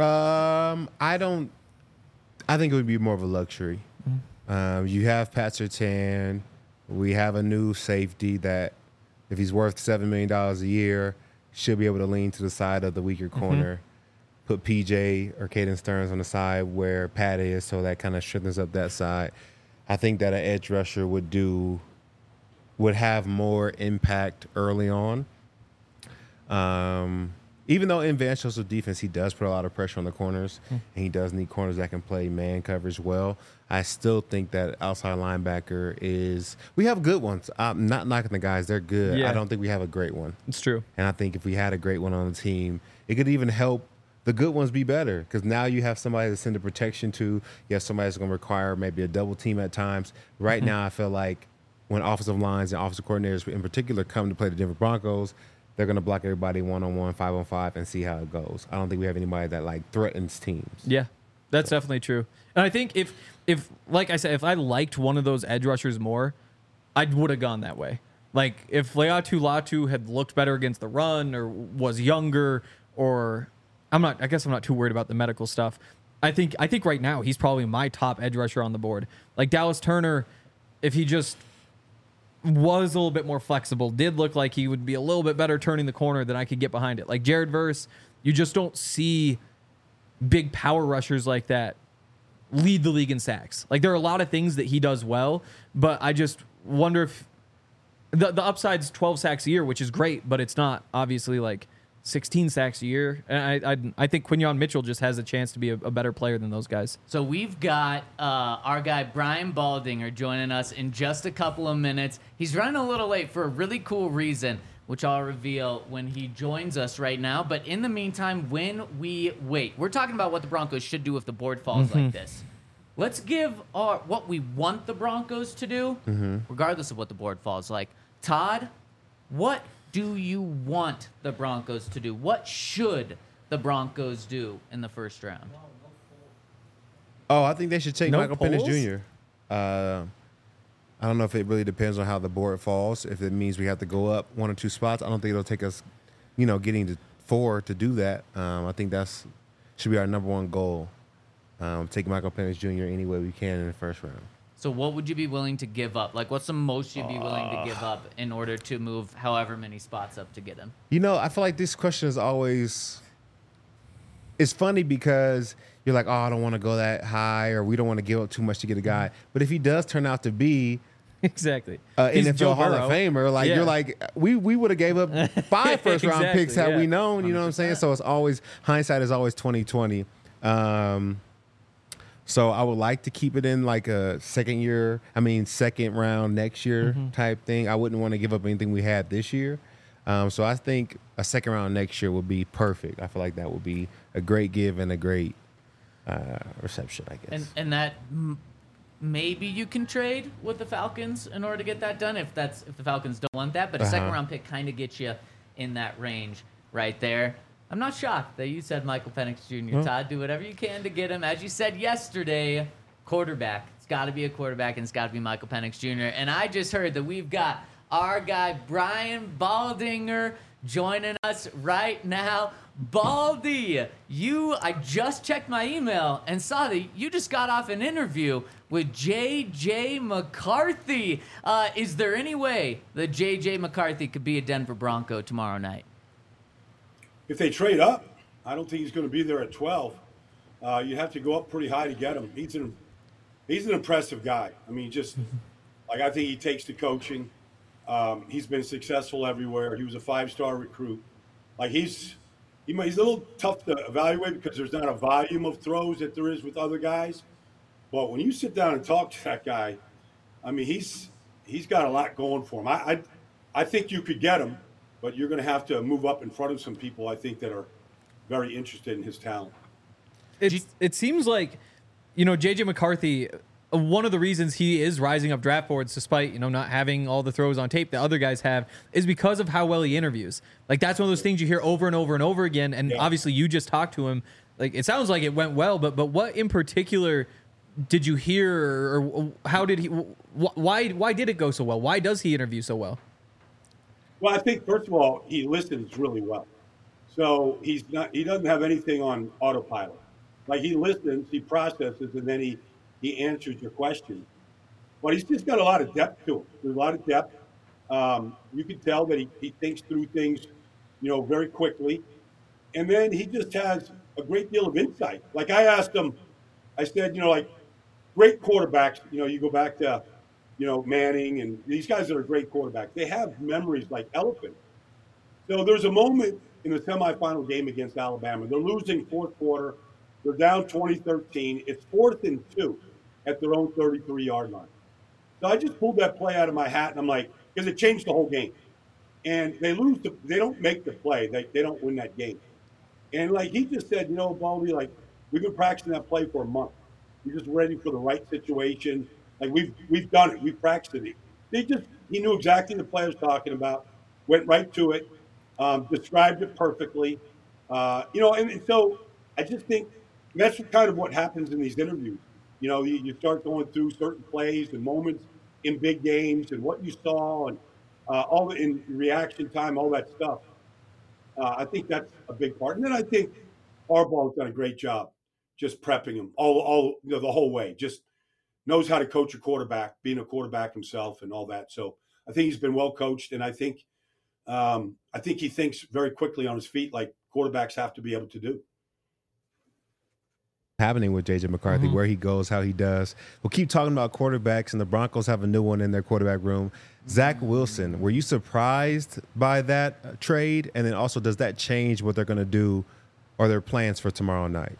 I think it would be more of a luxury. You have Pat Surtain. We have a new safety that, if he's worth $7 million a year, should be able to lean to the side of the weaker corner. Put PJ or Caden Stearns on the side where Pat is, so that kind of strengthens up that side. I think that an edge rusher would have more impact early on. Even though in Van Joseph's defense, he does put a lot of pressure on the corners, and he does need corners that can play man coverage well, I still think that outside linebacker is – we have good ones. I'm not knocking the guys. They're good. Yeah. I don't think we have a great one. It's true. And I think if we had a great one on the team, it could even help the good ones be better, because now you have somebody to send the protection to. You have somebody that's going to require maybe a double team at times. Right now, I feel like when offensive lines and offensive coordinators in particular come to play the Denver Broncos, they're going to block everybody 1-on-1, 5-on-5, and see how it goes. I don't think we have anybody that, like, threatens teams. Yeah, that's definitely true. And I think if like I said, if I liked one of those edge rushers more, I would have gone that way. Like, if Laiatu Latu had looked better against the run, or was younger, or I guess I'm not too worried about the medical stuff. I think right now he's probably my top edge rusher on the board. Like, Dallas Turner, if he just was a little bit more flexible, did look like he would be a little bit better turning the corner, than I could get behind it. Like Jared Verse, you just don't see big power rushers like that lead the league in sacks. Like, there are a lot of things that he does well, but I just wonder if the upside's 12 sacks a year, which is great, but it's not obviously like 16 sacks a year. And I think Quinyon Mitchell just has a chance to be a better player than those guys. So we've got our guy Brian Baldinger joining us in just a couple of minutes. He's running a little late for a really cool reason, which I'll reveal when he joins us right now. But in the meantime, when we wait, we're talking about what the Broncos should do if the board falls like this. Let's give what we want the Broncos to do, regardless of what the board falls like. Todd, what do you want the Broncos to do? What should the Broncos do in the first round? Oh, I think they should take Michael Penix polls? Jr. I don't know if it really depends on how the board falls. If it means we have to go up 1 or 2 spots, I don't think it'll take us, getting to 4 to do that. I think that's should be our number one goal. Take Michael Penix Jr. any way we can in the first round. So what would you be willing to give up? Like, what's the most you'd be willing to give up in order to move however many spots up to get him? I feel like this question is always – it's funny because you're like, oh, I don't want to go that high, or we don't want to give up too much to get a guy. But if he does turn out to be – Exactly. NFL Hall of Famer, like, you're like, we would have gave up 5 first-round picks had we known, you know what I'm saying? So it's always – hindsight is always 20/20. So I would like to keep it in like a second round next year type thing. I wouldn't want to give up anything we had this year. So I think a second round next year would be perfect. I feel like that would be a great give and a great reception, I guess. And that maybe you can trade with the Falcons in order to get that done if the Falcons don't want that. But a second round pick kind of gets you in that range right there. I'm not shocked that you said Michael Penix Jr. Todd, do whatever you can to get him. As you said yesterday, quarterback. It's got to be a quarterback, and it's got to be Michael Penix Jr. And I just heard that we've got our guy Brian Baldinger joining us right now. Baldy, I just checked my email and saw that you just got off an interview with J.J. McCarthy. Is there any way that J.J. McCarthy could be a Denver Bronco tomorrow night? If they trade up, I don't think he's going to be there at 12. You have to go up pretty high to get him. He's an impressive guy. I mean, I think he takes to coaching. He's been successful everywhere. He was a 5-star recruit. He's a little tough to evaluate because there's not a volume of throws that there is with other guys. But when you sit down and talk to that guy, I mean, he's got a lot going for him. I think you could get him, but you're going to have to move up in front of some people, I think, that are very interested in his talent. It seems like, J.J. McCarthy, one of the reasons he is rising up draft boards, despite, not having all the throws on tape that other guys have, is because of how well he interviews. That's one of those things you hear over and over and over again. And obviously you just talked to him. It sounds like it went well, but what in particular did you hear, or how did he, why did it go so well? Why does he interview so well? Well, I think, first of all, he listens really well. So he doesn't have anything on autopilot. He listens, he processes, and then he answers your question. But he's just got a lot of depth to him. There's a lot of depth. You can tell that he thinks through things, very quickly. And then he just has a great deal of insight. I asked him, I said, great quarterbacks, you go back to, Manning and these guys that are great quarterbacks, they have memories like elephants. So there's a moment in the semifinal game against Alabama. They're losing fourth quarter. They're down 20-13. It's 4th and 2 at their own 33-yard line. So I just pulled that play out of my hat, and I'm like, because it changed the whole game. And they lose. They don't make the play. They don't win that game. And he just said, Baldy, we've been practicing that play for a month. We're just ready for the right situation. We've done it. We've practiced it. He knew exactly the play I was talking about. Went right to it. Described it perfectly. And so I just think that's kind of what happens in these interviews. You start going through certain plays and moments in big games and what you saw and all in reaction time, all that stuff. I think that's a big part. And then I think Harbaugh's done a great job just prepping him all the whole way. Just knows how to coach a quarterback, being a quarterback himself and all that. So I think he's been well coached, and I think he thinks very quickly on his feet, like quarterbacks have to be able to do. Happening with J.J. McCarthy, where he goes, how he does. We'll keep talking about quarterbacks, and the Broncos have a new one in their quarterback room. Zach Wilson, were you surprised by that trade? And then also, does that change what they're going to do or their plans for tomorrow night?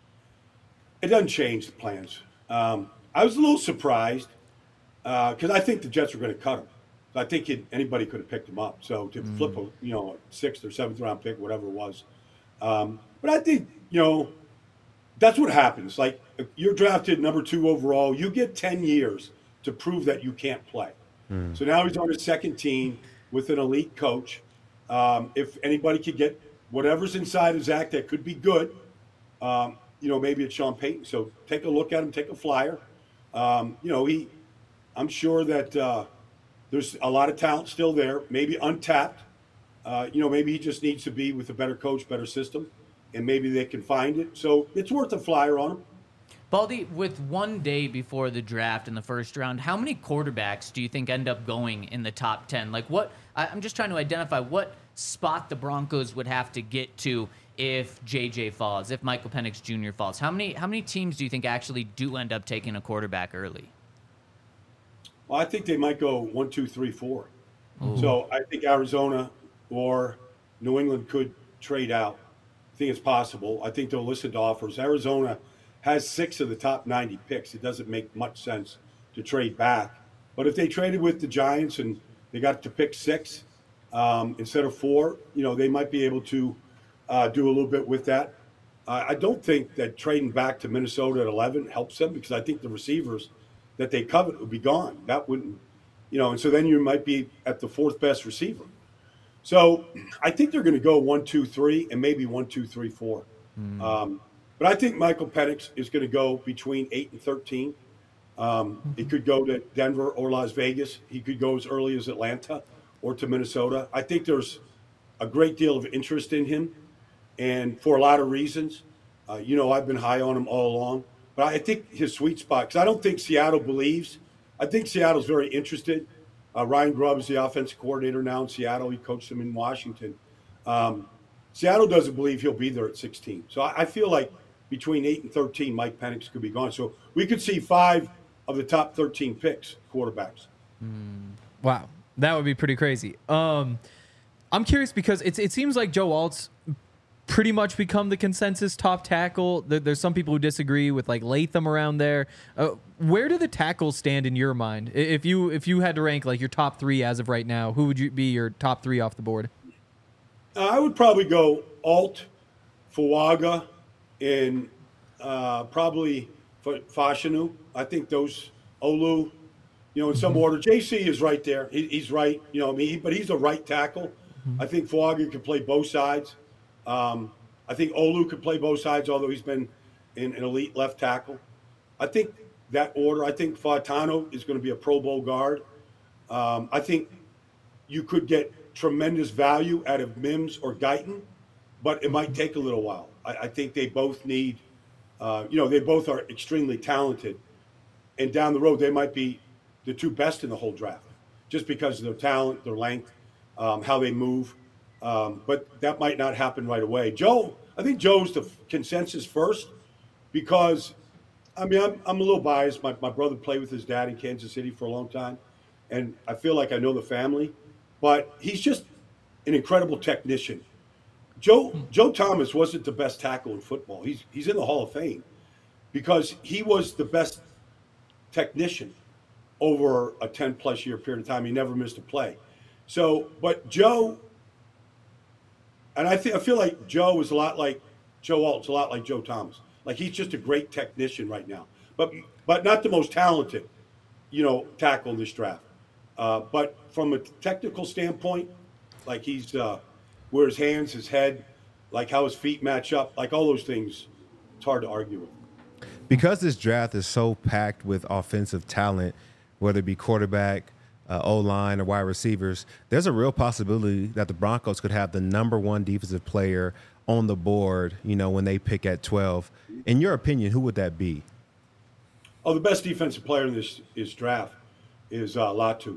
It doesn't change the plans. I was a little surprised because I think the Jets were going to cut him. I think anybody could have picked him up. So to flip a 6th or 7th round pick, whatever it was. But I think, that's what happens. If you're drafted number 2 overall, you get 10 years to prove that you can't play. So now he's on his second team with an elite coach. If anybody could get whatever's inside of Zach that could be good, maybe it's Sean Payton. So take a look at him, take a flyer. I'm sure that there's a lot of talent still there, maybe untapped. Maybe he just needs to be with a better coach, better system. And maybe they can find it. So it's worth a flyer on him. Baldy, with one day before the draft in the first round, how many quarterbacks do you think end up going in the top 10? I'm just trying to identify what spot the Broncos would have to get to if JJ falls, if Michael Penix Jr. falls. How many teams do you think actually do end up taking a quarterback early? Well, I think they might go 1, 2, 3, 4. Ooh. So I think Arizona or New England could trade out. I think it's possible. I think they'll listen to offers. Arizona has 6 of the top 90 picks. It doesn't make much sense to trade back. But if they traded with the Giants and they got to pick 6 instead of 4, they might be able to do a little bit with that. I don't think that trading back to Minnesota at 11 helps them because I think the receivers that they covet would be gone. That wouldn't, and so then you might be at the 4th best receiver. So I think they're going to go 1, 2, 3, and maybe 1, 2, 3, 4. But I think Michael Penix is going to go between 8 and 13. He could go to Denver or Las Vegas. He could go as early as Atlanta or to Minnesota. I think there's a great deal of interest in him, and for a lot of reasons. I've been high on him all along, but I think his sweet spot, because I don't think Seattle believes. I think Seattle's very interested. Ryan Grubb is the offensive coordinator now in Seattle. He coached him in Washington. Seattle doesn't believe he'll be there at 16. So I feel like between 8 and 13, Mike Penix could be gone. So we could see 5 of the top 13 picks, quarterbacks. Wow, that would be pretty crazy. I'm curious because it seems like Joe Alt's pretty much become the consensus top tackle. There's some people who disagree with like Latham around there. Where do the tackles stand in your mind? If you had to rank like your top 3 as of right now, who would you be your top 3 off the board? I would probably go Alt, Fuaga, and probably Fashanu. I think those Olu, in some order. JC is right there. He's right. But he's a right tackle. I think Fuaga could play both sides. I think Olu could play both sides, although he's been an elite left tackle. I think that order. I think Fautano is going to be a Pro Bowl guard. I think you could get tremendous value out of Mims or Guyton, but it might take a little while. I think they both need, they both are extremely talented. And down the road, they might be the 2 best in the whole draft, just because of their talent, their length, how they move. But that might not happen right away. I think Joe's the consensus first because, I'm a little biased. My brother played with his dad in Kansas City for a long time, and I feel like I know the family. But he's just an incredible technician. Joe Thomas wasn't the best tackle in football. He's in the Hall of Fame because he was the best technician over a 10-plus year period of time. He never missed a play. So, but Joe, and I feel like Joe is a lot like Joe Alt's a lot like Joe Thomas. Like he's just a great technician right now, but not the most talented, tackle in this draft. But from a technical standpoint, like he's where his hands, his head, like how his feet match up, like all those things, it's hard to argue with. Because this draft is so packed with offensive talent, whether it be quarterback, O-line, or wide receivers, there's a real possibility that the Broncos could have the number 1 defensive player on the board, when they pick at 12. In your opinion, who would that be? Oh, the best defensive player in this draft is Latu.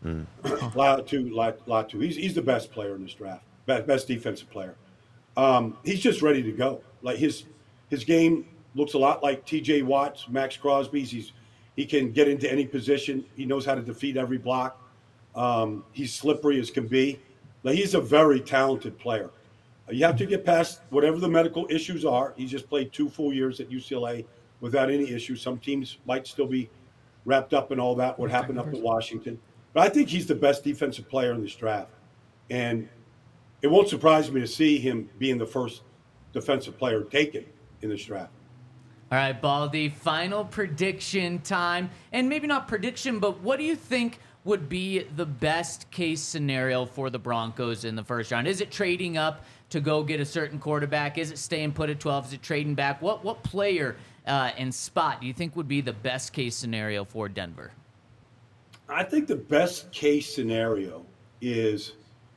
Latu. He's the best player in this draft. Best defensive player. He's just ready to go. Like his game looks a lot like T.J. Watt's, Max Crosby's. He can get into any position. He knows how to defeat every block. He's slippery as can be. Like he's a very talented player. You have to get past whatever the medical issues are. He just played 2 full years at UCLA without any issues. Some teams might still be wrapped up in all that, what happened up in Washington. But I think he's the best defensive player in this draft. And it won't surprise me to see him being the first defensive player taken in this draft. All right, Baldy, final prediction time. And maybe not prediction, but what do you think would be the best case scenario for the Broncos in the first round? Is it trading up to go get a certain quarterback? Is it staying put at 12? Is it trading back? What player and spot do you think would be the best case scenario for Denver? I think the best case scenario is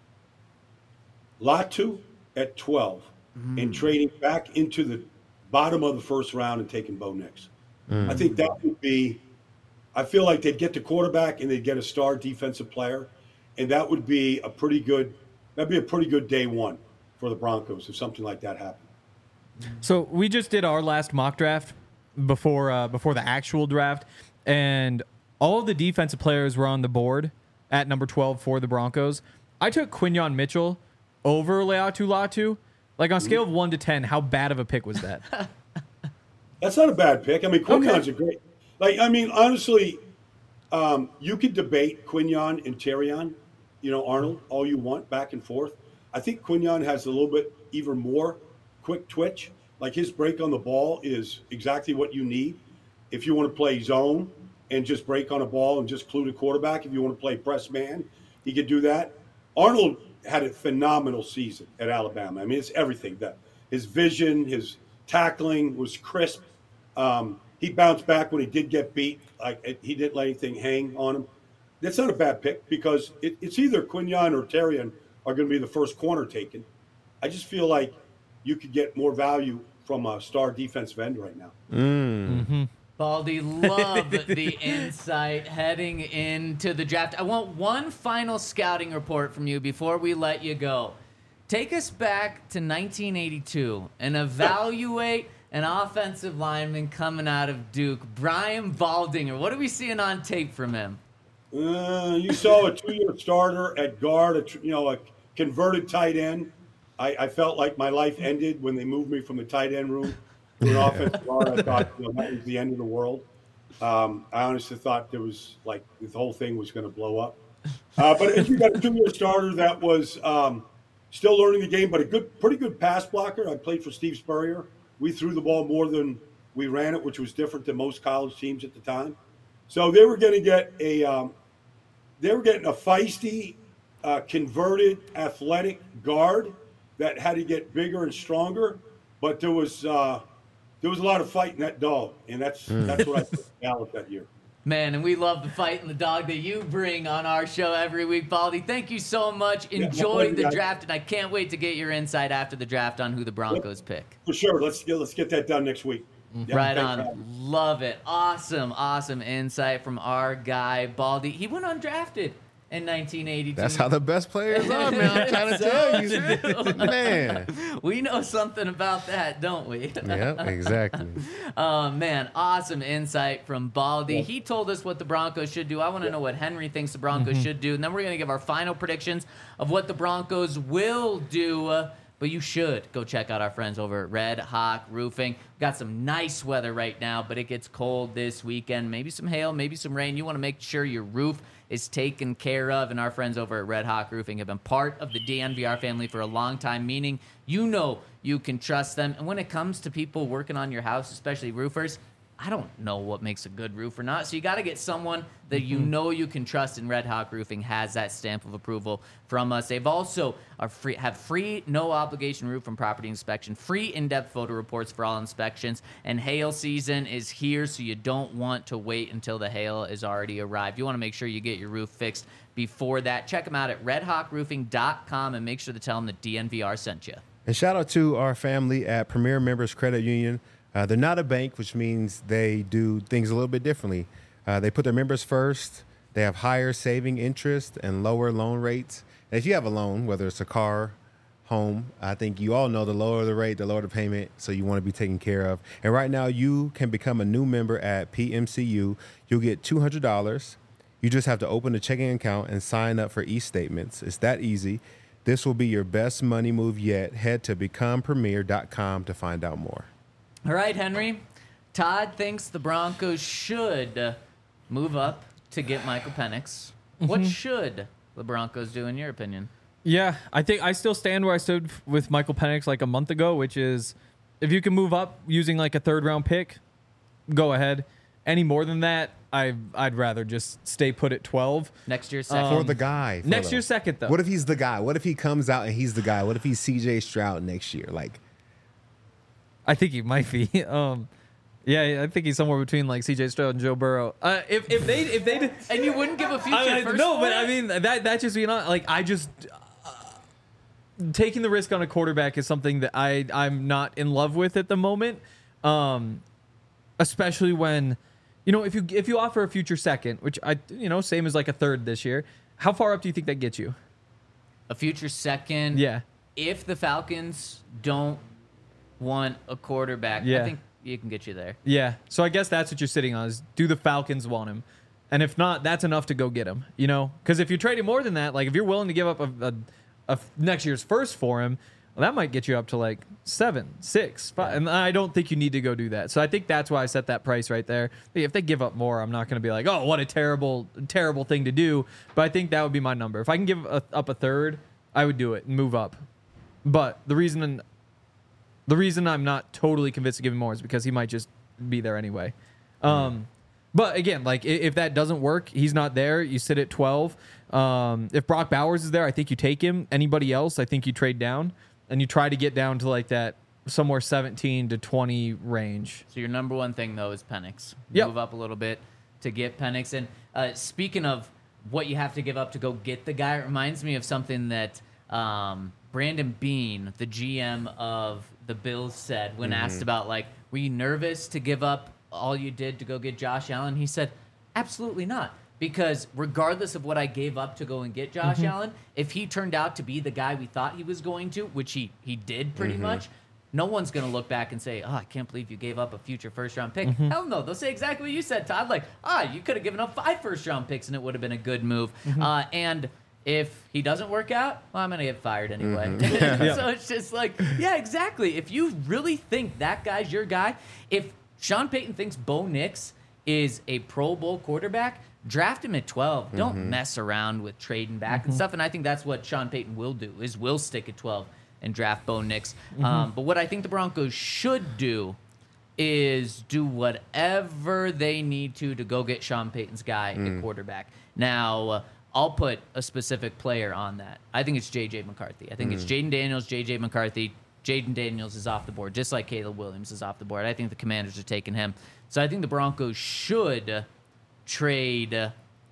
Latu at 12 and trading back into the bottom of the first round and taking Bo Nix. I think that would be – I feel like they'd get the quarterback and they'd get a star defensive player, and that would be a pretty good – that'd be a pretty good day one for the Broncos if something like that happened. So we just did our last mock draft before the actual draft, and all of the defensive players were on the board at number 12 for the Broncos. I took Quinyon Mitchell over Laiatu Latu. Like on a scale of 1 to 10, how bad of a pick was that? That's not a bad pick. I mean, Quinyon's a great – like, I mean, honestly, you could debate Quinyon and Terrion, Arnold, all you want, back and forth. I think Quinyon has a little bit even more quick twitch. Like his break on the ball is exactly what you need. If you want to play zone and just break on a ball and just clue the quarterback, if you want to play press man, he could do that. Arnold had a phenomenal season at Alabama. I mean, it's everything. His vision, his tackling was crisp. He bounced back when he did get beat. Like he didn't let anything hang on him. That's not a bad pick because it's either Quinyon or Terrion are going to be the first corner taken. I just feel like you could get more value from a star defensive end right now. Baldy, love the insight heading into the draft. I want one final scouting report from you before we let you go. Take us back to 1982 and evaluate an offensive lineman coming out of Duke, Brian Baldinger. What are we seeing on tape from him? You saw a 2-year starter at guard, a converted tight end. I felt like my life ended when they moved me from the tight end room to an offensive guard. I thought that was the end of the world. I honestly thought there was the whole thing was going to blow up. But if you got a 2-year starter that was still learning the game, but a pretty good pass blocker. I played for Steve Spurrier. We threw the ball more than we ran it, which was different than most college teams at the time. So they were going to get a feisty, converted, athletic guard that had to get bigger and stronger. But there was a lot of fight in that dog, and that's what I put Dallas that year. Man, and we love the fight and the dog that you bring on our show every week, Baldy. Thank you so much. Enjoy the draft, and I can't wait to get your insight after the draft on who the Broncos pick. For sure. Let's get that done next week. Yeah, right on. Love it. Awesome insight from our guy, Baldy. He went undrafted in 1982. That's how the best players are, man. I'm trying to tell you. Man. We know something about that, don't we? Yep, exactly. Man, awesome insight from Baldy. He told us what the Broncos should do. I want to know what Henry thinks the Broncos should do. And then we're going to give our final predictions of what the Broncos will do. But you should go check out our friends over at Red Hawk Roofing. We've got some nice weather right now, but it gets cold this weekend. Maybe some hail, maybe some rain. You want to make sure your roof is taken care of, and our friends over at Red Hawk Roofing have been part of the DNVR family for a long time, meaning you know you can trust them. And when it comes to people working on your house, especially roofers, I don't know what makes a good roof or not. So you got to get someone that you know you can trust, and Red Hawk Roofing has that stamp of approval from us. They've also have free, no obligation roof and property inspection, free in-depth photo reports for all inspections, and hail season is here, so you don't want to wait until the hail is already arrived. You want to make sure you get your roof fixed before that. Check them out at redhawkroofing.com and make sure to tell them that DNVR sent you. And shout out to our family at Premier Members Credit Union. They're not a bank, which means they do things a little bit differently. They put their members first. They have higher saving interest and lower loan rates. And if you have a loan, whether it's a car, home, I think you all know the lower the rate, the lower the payment, so you want to be taken care of. And right now, you can become a new member at PMCU. You'll get $200. You just have to open a checking account and sign up for e-statements. It's that easy. This will be your best money move yet. Head to becomepremier.com to find out more. All right, Henry. Todd thinks the Broncos should move up to get Michael Penix. What should the Broncos do, in your opinion? Yeah, I think I still stand where I stood with Michael Penix like a month ago, which is if you can move up using like a third-round pick, go ahead. Any more than that, I'd rather just stay put at 12. Next year's second. For the guy. Next year's second, though. What if he's the guy? What if he comes out and he's the guy? What if he's C.J. Stroud next year? I think he might be. Yeah, I think he's somewhere between like C.J. Stroud and Joe Burrow. If they did, and you wouldn't give a future first. No, but I mean that just being like I just taking the risk on a quarterback is something that I'm not in love with at the moment. Especially when, if you offer a future second, which same as like a third this year, how far up do you think that gets you? A future second. Yeah. If the Falcons don't want a quarterback, I think you can get you there. Yeah. So I guess that's what you're sitting on is, do the Falcons want him? And if not, that's enough to go get him, Because if you're trading more than that, like if you're willing to give up a next year's first for him, well, that might get you up to like 7, 6, 5. And I don't think you need to go do that. So I think that's why I set that price right there. If they give up more, I'm not going to be like, oh, what a terrible, terrible thing to do. But I think that would be my number. If I can give up a third, I would do it and move up. But the reason I'm not totally convinced to give him more is because he might just be there anyway. But again, like if that doesn't work, he's not there. You sit at 12. If Brock Bowers is there, I think you take him. Anybody else, I think you trade down and you try to get down to like that somewhere 17 to 20 range. So your number one thing though is Penix. Yep. Move up a little bit to get Penix. And speaking of what you have to give up to go get the guy, it reminds me of something that Brandon Beane, the GM of the Bills, said when asked about, like, were you nervous to give up all you did to go get Josh Allen? He said, absolutely not. Because regardless of what I gave up to go and get Josh Allen, if he turned out to be the guy we thought he was going to, which he did pretty much, no one's going to look back and say, oh, I can't believe you gave up a future first-round pick. Hell no. They'll say exactly what you said, Todd. Like, you could have given up 5 first-round picks and it would have been a good move. And if he doesn't work out, well, I'm going to get fired anyway. So it's just like, yeah, exactly. If you really think that guy's your guy, if Sean Payton thinks Bo Nix is a Pro Bowl quarterback, draft him at 12. Don't mess around with trading back and stuff. And I think that's what Sean Payton will do, is will stick at 12 and draft Bo Nix. But what I think the Broncos should do is do whatever they need to go get Sean Payton's guy at quarterback. Now, I'll put a specific player on that. I think it's J.J. McCarthy. I think it's Jaden Daniels, J.J. McCarthy. Jaden Daniels is off the board, just like Caleb Williams is off the board. I think the Commanders are taking him. So I think the Broncos should trade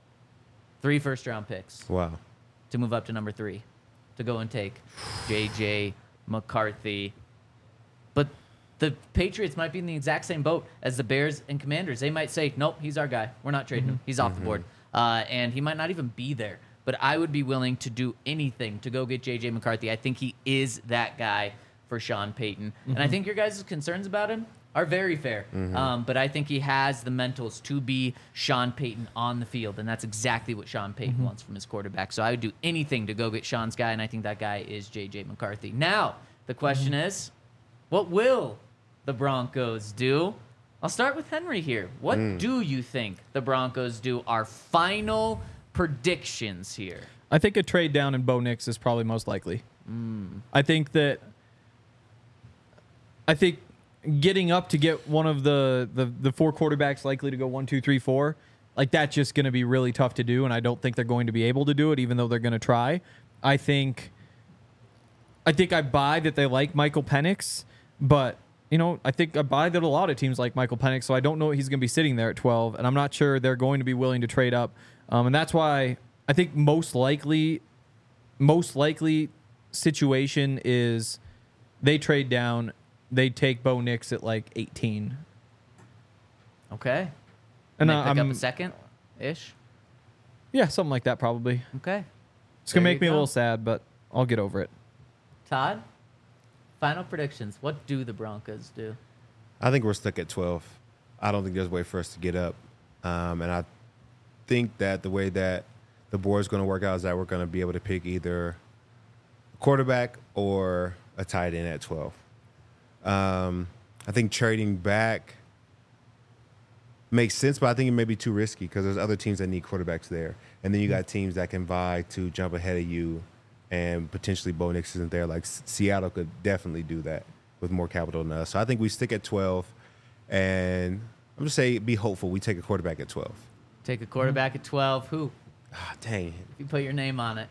3 first-round picks. Wow. To move up to number 3, to go and take J.J. McCarthy. But the Patriots might be in the exact same boat as the Bears and Commanders. They might say, nope, he's our guy. We're not trading him. He's off the board. And he might not even be there. But I would be willing to do anything to go get J.J. McCarthy. I think he is that guy for Sean Payton. And I think your guys' concerns about him are very fair. But I think he has the mentals to be Sean Payton on the field, and that's exactly what Sean Payton wants from his quarterback. So I would do anything to go get Sean's guy, and I think that guy is J.J. McCarthy. Now, the question is, what will the Broncos do? I'll start with Henry here. What do you think the Broncos do? Our final predictions here. I think a trade down in Bo Nix is probably most likely. I think getting up to get one of the 4 quarterbacks likely to go 1, 2, 3, 4, like that's just going to be really tough to do, and I don't think they're going to be able to do it, even though they're going to try. I think I buy that they like Michael Penix, but I think I buy that a lot of teams like Michael Penix, so I don't know he's going to be sitting there at 12, and I'm not sure they're going to be willing to trade up, and that's why I think most likely situation is they trade down. They take Bo Nix at like 18. Okay. And they pick up a second-ish? Yeah, something like that probably. Okay. It's going to make me a little sad, but I'll get over it. Todd, final predictions. What do the Broncos do? I think we're stuck at 12. I don't think there's a way for us to get up. And I think that the way that the board is going to work out is that we're going to be able to pick either a quarterback or a tight end at 12. I think trading back makes sense, but I think it may be too risky because there's other teams that need quarterbacks there. And then you got teams that can vie to jump ahead of you, and potentially Bo Nix isn't there. Like Seattle could definitely do that with more capital than us. So I think we stick at 12, and I'm just saying be hopeful. We take a quarterback at 12. Take a quarterback at 12. Who? Dang. If you put your name on it.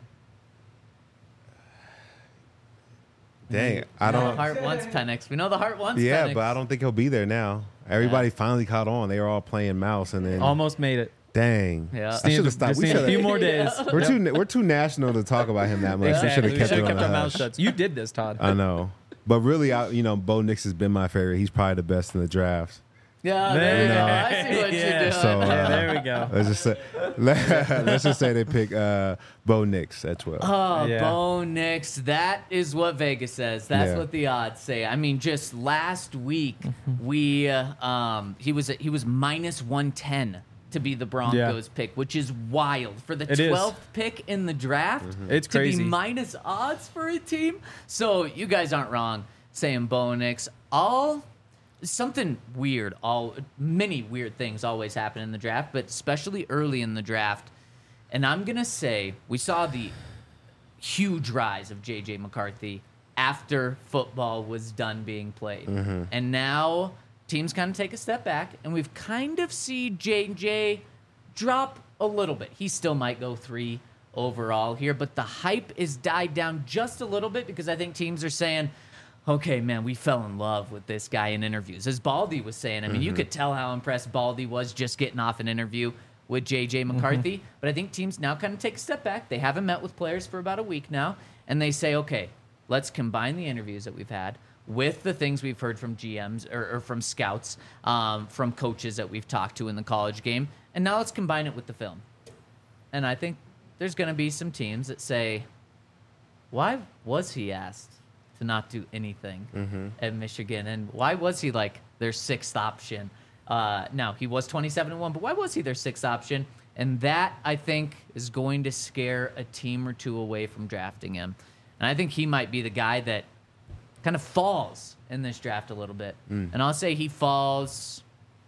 Dang, I don't. The heart wants Penix. We know the heart wants Penix. Yeah, but I don't think he'll be there now. Everybody finally caught on. They were all playing mouse, and then almost made it. Dang. Yeah. I should have stopped. We a few more days. We're too national to talk about him that much. Exactly. We should have kept our mouth shut. You did this, Todd. I know, but really, Bo Nix has been my favorite. He's probably the best in the drafts. Yeah, there you go. I see what you're doing. So, there we go. Let's just say they pick Bo Nix at 12. Oh, yeah. Bo Nix. That is what Vegas says. That's what the odds say. I mean, just last week he was minus 110 to be the Broncos pick, which is wild for the 12th pick in the draft. It's crazy to be minus odds for a team. So you guys aren't wrong saying Bo Nix. Something weird. Many weird things always happen in the draft, but especially early in the draft. And I'm gonna say we saw the huge rise of J.J. McCarthy after football was done being played, and now teams kind of take a step back, and we've kind of seen J.J. drop a little bit. He still might go 3 overall here, but the hype is died down just a little bit because I think teams are saying, okay, man, we fell in love with this guy in interviews. As Baldy was saying, I mean, you could tell how impressed Baldy was just getting off an interview with J.J. McCarthy. But I think teams now kind of take a step back. They haven't met with players for about a week now. and they say, okay, let's combine the interviews that we've had with the things we've heard from GMs or from scouts, from coaches that we've talked to in the college game, and now let's combine it with the film. And I think there's going to be some teams that say, why was he asked to not do anything at Michigan? And why was he like their 6th option? Now, he was 27-1, but why was he their 6th option? And that, I think, is going to scare a team or two away from drafting him. And I think he might be the guy that kind of falls in this draft a little bit. And I'll say he falls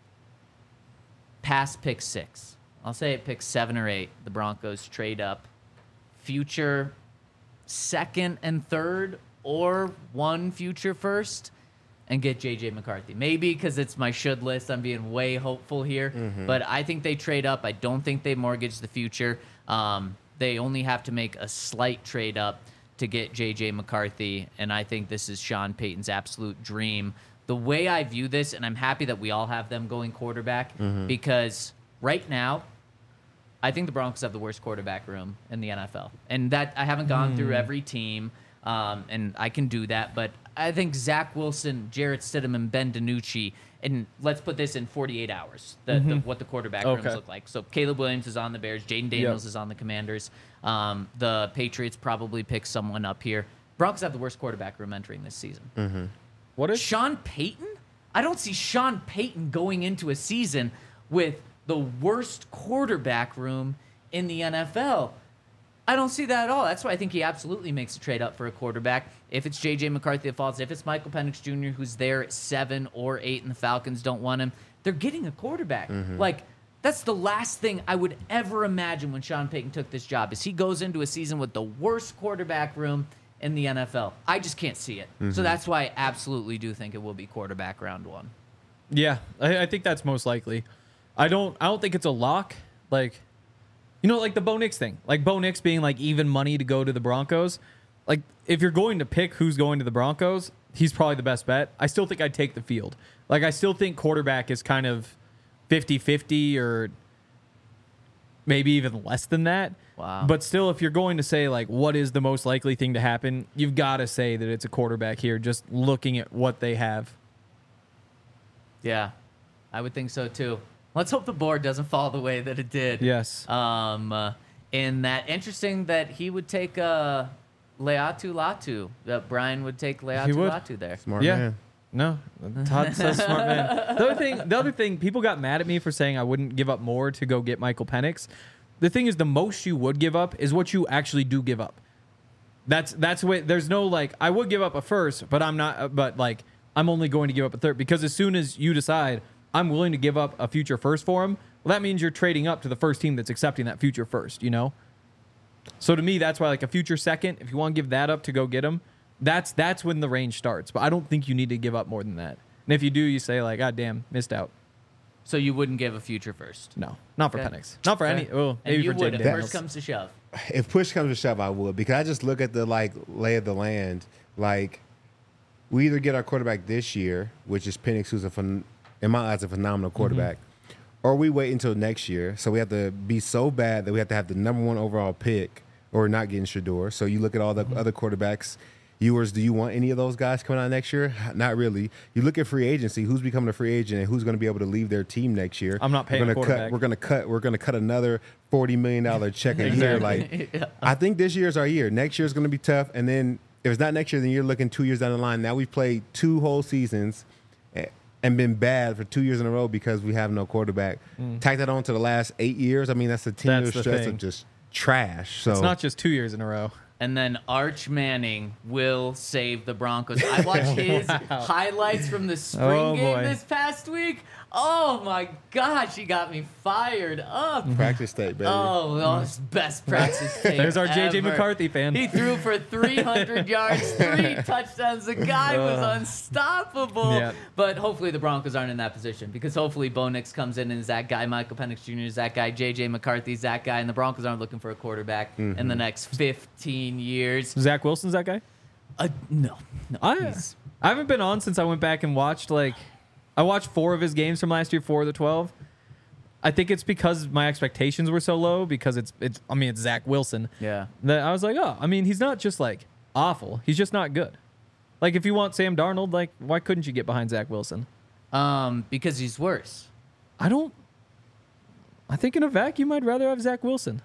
past pick 6. I'll say at pick 7 or 8, the Broncos trade up future 2nd and 3rd or 1 future 1st and get J.J. McCarthy. Maybe because it's my should list. I'm being way hopeful here. But I think they trade up. I don't think they mortgage the future. They only have to make a slight trade up to get J.J. McCarthy, and I think this is Sean Payton's absolute dream. The way I view this, and I'm happy that we all have them going quarterback, because right now, I think the Broncos have the worst quarterback room in the NFL. And that I haven't gone through every team, and I can do that, but I think Zach Wilson, Jarrett Stidham, and Ben DiNucci, and let's put this in 48 hours, what the quarterback rooms look like. So Caleb Williams is on the Bears. Jaden Daniels is on the Commanders. The Patriots probably pick someone up here. Broncos have the worst quarterback room entering this season. What is Sean Payton? I don't see Sean Payton going into a season with the worst quarterback room in the NFL. I don't see that at all. That's why I think he absolutely makes a trade up for a quarterback. If it's J.J. McCarthy that falls, if it's Michael Penix Jr. who's there at 7 or 8 and the Falcons don't want him, they're getting a quarterback. Like, that's the last thing I would ever imagine when Sean Payton took this job, is he goes into a season with the worst quarterback room in the NFL. I just can't see it. So that's why I absolutely do think it will be quarterback round 1. Yeah, I think that's most likely. I don't think it's a lock. Like, you know, like the Bo Nix thing. Like Bo Nix being like even money to go to the Broncos. Like, if you're going to pick who's going to the Broncos, he's probably the best bet. I still think I'd take the field. Like, I still think quarterback is kind of 50-50 or maybe even less than that. Wow. But still, if you're going to say, like, what is the most likely thing to happen, you've got to say that it's a quarterback here, just looking at what they have. Yeah, I would think so too. Let's hope the board doesn't fall the way that it did. Yes. In that, interesting that he would take Leatu Latu. That Brian would take Leatu Latu there. Smart man. No, Todd says smart man. The other thing, people got mad at me for saying I wouldn't give up more to go get Michael Penix. The thing is, the most you would give up is what you actually do give up. That's what. There's no like, I would give up a first, but I'm not. But like, I'm only going to give up a third, because as soon as you decide I'm willing to give up a future first for him, well, that means you're trading up to the first team that's accepting that future first. You know. So to me, that's why like a future second, if you want to give that up to go get him, that's when the range starts. But I don't think you need to give up more than that. And if you do, you say like, God damn, missed out. So you wouldn't give a future first? No, not for Okay. Penix. Not for any. Well, And maybe you for would Jaden if Daniels. first comes to shove. If push comes to shove, I would, because I just look at the like lay of the land. Like, we either get our quarterback this year, which is Penix, who's in my eyes a phenomenal quarterback, or we wait until next year. So we have to be so bad that we have to have the number 1 overall pick, or not getting Shador. So you look at all the other quarterbacks. Do you want any of those guys coming out next year? Not really. You look at free agency. Who's becoming a free agent and who's going to be able to leave their team next year? I'm not paying a quarterback. We're going to cut another $40 million check a year. Like, I think this year's our year. Next year's going to be tough. And then if it's not next year, then you're looking 2 years down the line. Now we've played 2 whole seasons and been bad for 2 years in a row because we have no quarterback. Tack that on to the last 8 years. I mean, that's a 10-year stretch of just trash. So It's not just 2 years in a row. And then Arch Manning will save the Broncos. I watched his highlights from the spring game this past week. Oh my gosh, he got me fired up. practice tape, baby. Oh, it's best practice tape. There's our J.J. ever. McCarthy fan. He threw for 300 yards, 3 touchdowns. The guy was unstoppable. Yeah. But hopefully the Broncos aren't in that position, because hopefully Bo Nix comes in and is that guy. Michael Penix Jr. is that guy. J.J. McCarthy's that guy. And the Broncos aren't looking for a quarterback in the next 15 years. Zach Wilson's that guy? No. I haven't been on since I went back and watched, like, I watched 4 of his games from last year, 4 of the 12. I think it's because my expectations were so low because it's Zach Wilson. Yeah. That I was like, oh, I mean, he's not just like awful. He's just not good. Like if you want Sam Darnold, like why couldn't you get behind Zach Wilson? Because he's worse. I think in a vacuum, I'd rather have Zach Wilson.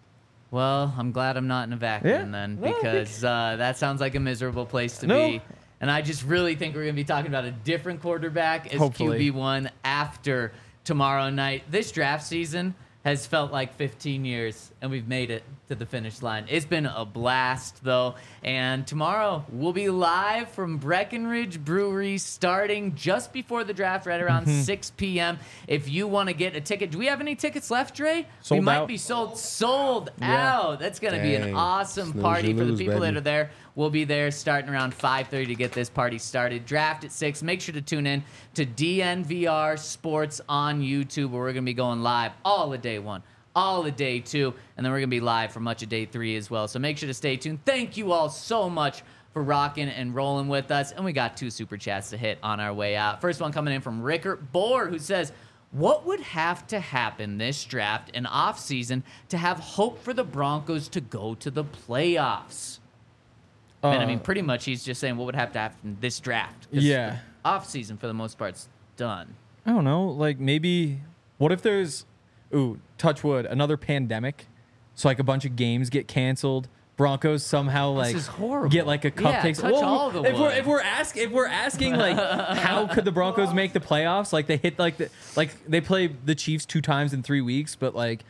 Well, I'm glad I'm not in a vacuum Yeah. then, Well, because that sounds like a miserable place to No. be. And I just really think we're going to be talking about a different quarterback as Hopefully. QB1 after tomorrow night. This draft season has felt like 15 years, and we've made it to the finish line. It's been a blast, though. And tomorrow, we'll be live from Breckenridge Brewery starting just before the draft, right around 6 p.m. If you want to get a ticket. Do we have any tickets left, Dre? Sold we might out. be sold Yeah. out. That's going to be an Dang. awesome Snooze, party you for the lose, people that baby. are there. We'll be there starting around 5:30 to get this party started. Draft at 6. Make sure to tune in to DNVR Sports on YouTube, where we're going to be going live all of day 1, all of day 2, and then we're going to be live for much of day 3 as well. So make sure to stay tuned. Thank you all so much for rocking and rolling with us. And we got 2 super chats to hit on our way out. First one coming in from Rickert Bohr, who says, what would have to happen this draft and offseason to have hope for the Broncos to go to the playoffs? And I mean, pretty much he's just saying what would have to happen this draft. 'Cause Yeah. the offseason, for the most part, is done. I don't know. Like maybe, what if there's, touch wood, another pandemic? So like a bunch of games get canceled. Broncos somehow like is horrible. get like a Yeah, cupcake. touch all the if wood. we're asking like how could the Broncos make the playoffs? Like they hit like they play the Chiefs 2 times in 3 weeks, but like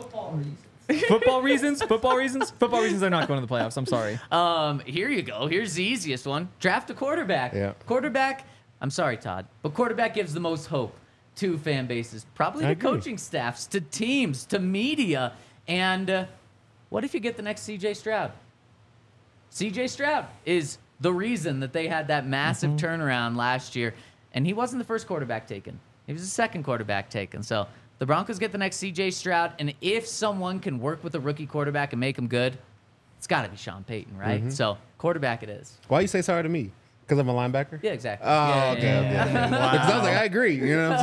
football reasons, they're not going to the playoffs. I'm sorry. Here you go. Here's the easiest one. Draft a quarterback. Yeah. Quarterback, I'm sorry, Todd, but quarterback gives the most hope to fan bases, probably I to agree. coaching staffs, to teams, to media. And what if you get the next C.J. Stroud? C.J. Stroud is the reason that they had that massive turnaround last year. And he wasn't the first quarterback taken. He was the second quarterback taken. So the Broncos get the next C.J. Stroud. And if someone can work with a rookie quarterback and make him good, it's got to be Sean Payton, right? So quarterback it is. Why you say sorry to me? Because I'm a linebacker? Yeah, exactly. Oh, Yeah, okay. yeah, yeah. Because I was like, I agree. You know what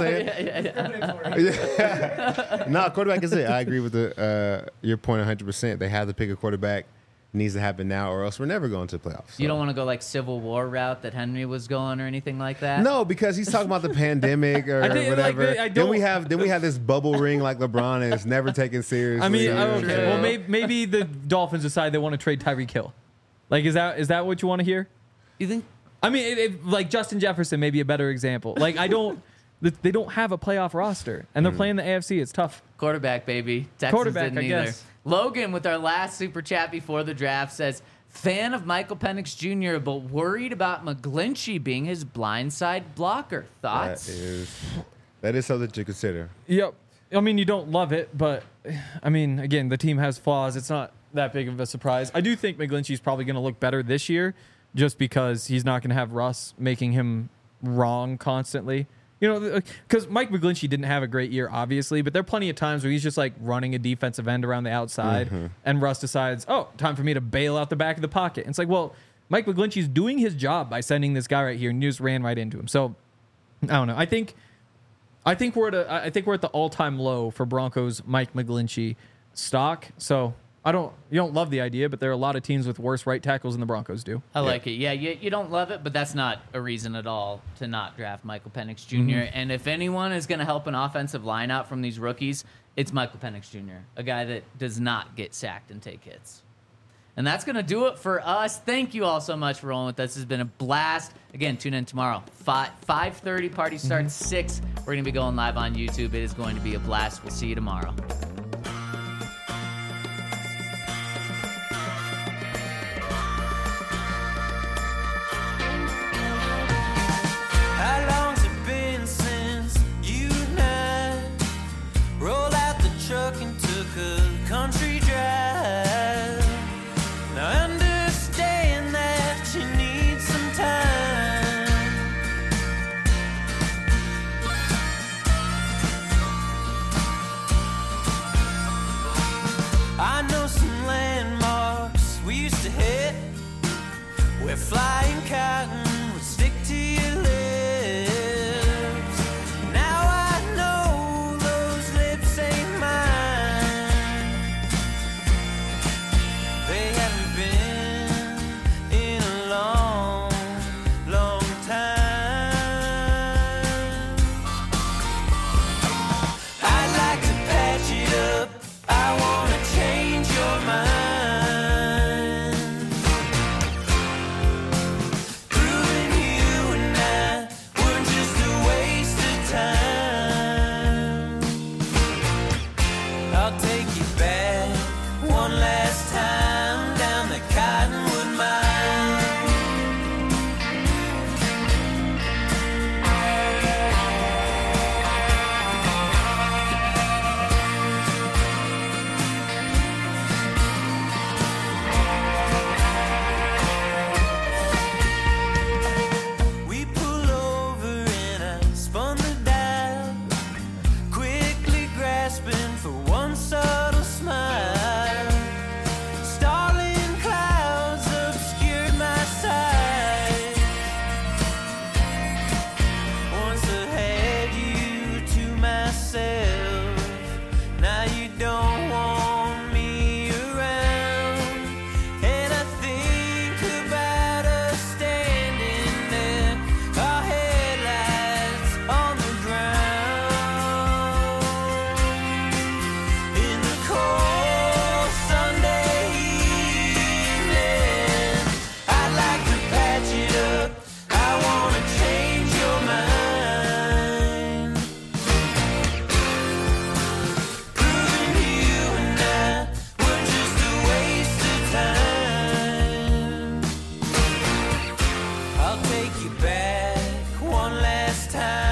I'm saying? No, quarterback is it. I agree with your point 100%. They have to pick a quarterback. It needs to happen now, or else we're never going to the playoffs. You So. don't want to go like Civil War route that Henry was going or anything like that? No, because he's talking about the pandemic or I think, like, whatever. I then we don't- have this bubble ring like LeBron and it's never taken seriously. I mean, you know what I'm okay. saying? Well, maybe the Dolphins decide they want to trade Tyreek Hill. Like, is that what you want to hear? You think? I mean, like Justin Jefferson may be a better example. Like, they don't have a playoff roster, and they're playing the AFC. It's tough. Quarterback, baby. Texans Quarterback, didn't I either. guess. Logan, with our last super chat before the draft, says, fan of Michael Penix Jr., but worried about McGlinchey being his blindside blocker. Thoughts? That is something to consider. Yep. I mean, you don't love it, but I mean, again, the team has flaws. It's not that big of a surprise. I do think McGlinchey's probably going to look better this year, just because he's not going to have Russ making him wrong constantly. You know, because Mike McGlinchey didn't have a great year, obviously, but there are plenty of times where he's just like running a defensive end around the outside, and Russ decides, oh, time for me to bail out the back of the pocket. And it's like, well, Mike McGlinchey's doing his job by sending this guy right here, and you just ran right into him. So, I don't know. I think we're at the all-time low for Broncos Mike McGlinchey stock. So you don't love the idea, but there are a lot of teams with worse right tackles than the Broncos do. I like it. Yeah, you don't love it, but that's not a reason at all to not draft Michael Penix junior And if anyone is going to help an offensive line out from these rookies, it's Michael Penix Jr., a guy that does not get sacked and take hits. And that's going to do it for us. Thank you all so much for rolling with us. This has been a blast. Again, tune in tomorrow. 5:30, party starts 6. We're going to be going live on YouTube. It is going to be a blast. We'll see you tomorrow. How long's it been since you and I rolled out the truck and took a country drive? Now I understand that you need some time. I know some landmarks we used to hit where flying cotton would stick to your lips. Now I know those lips time.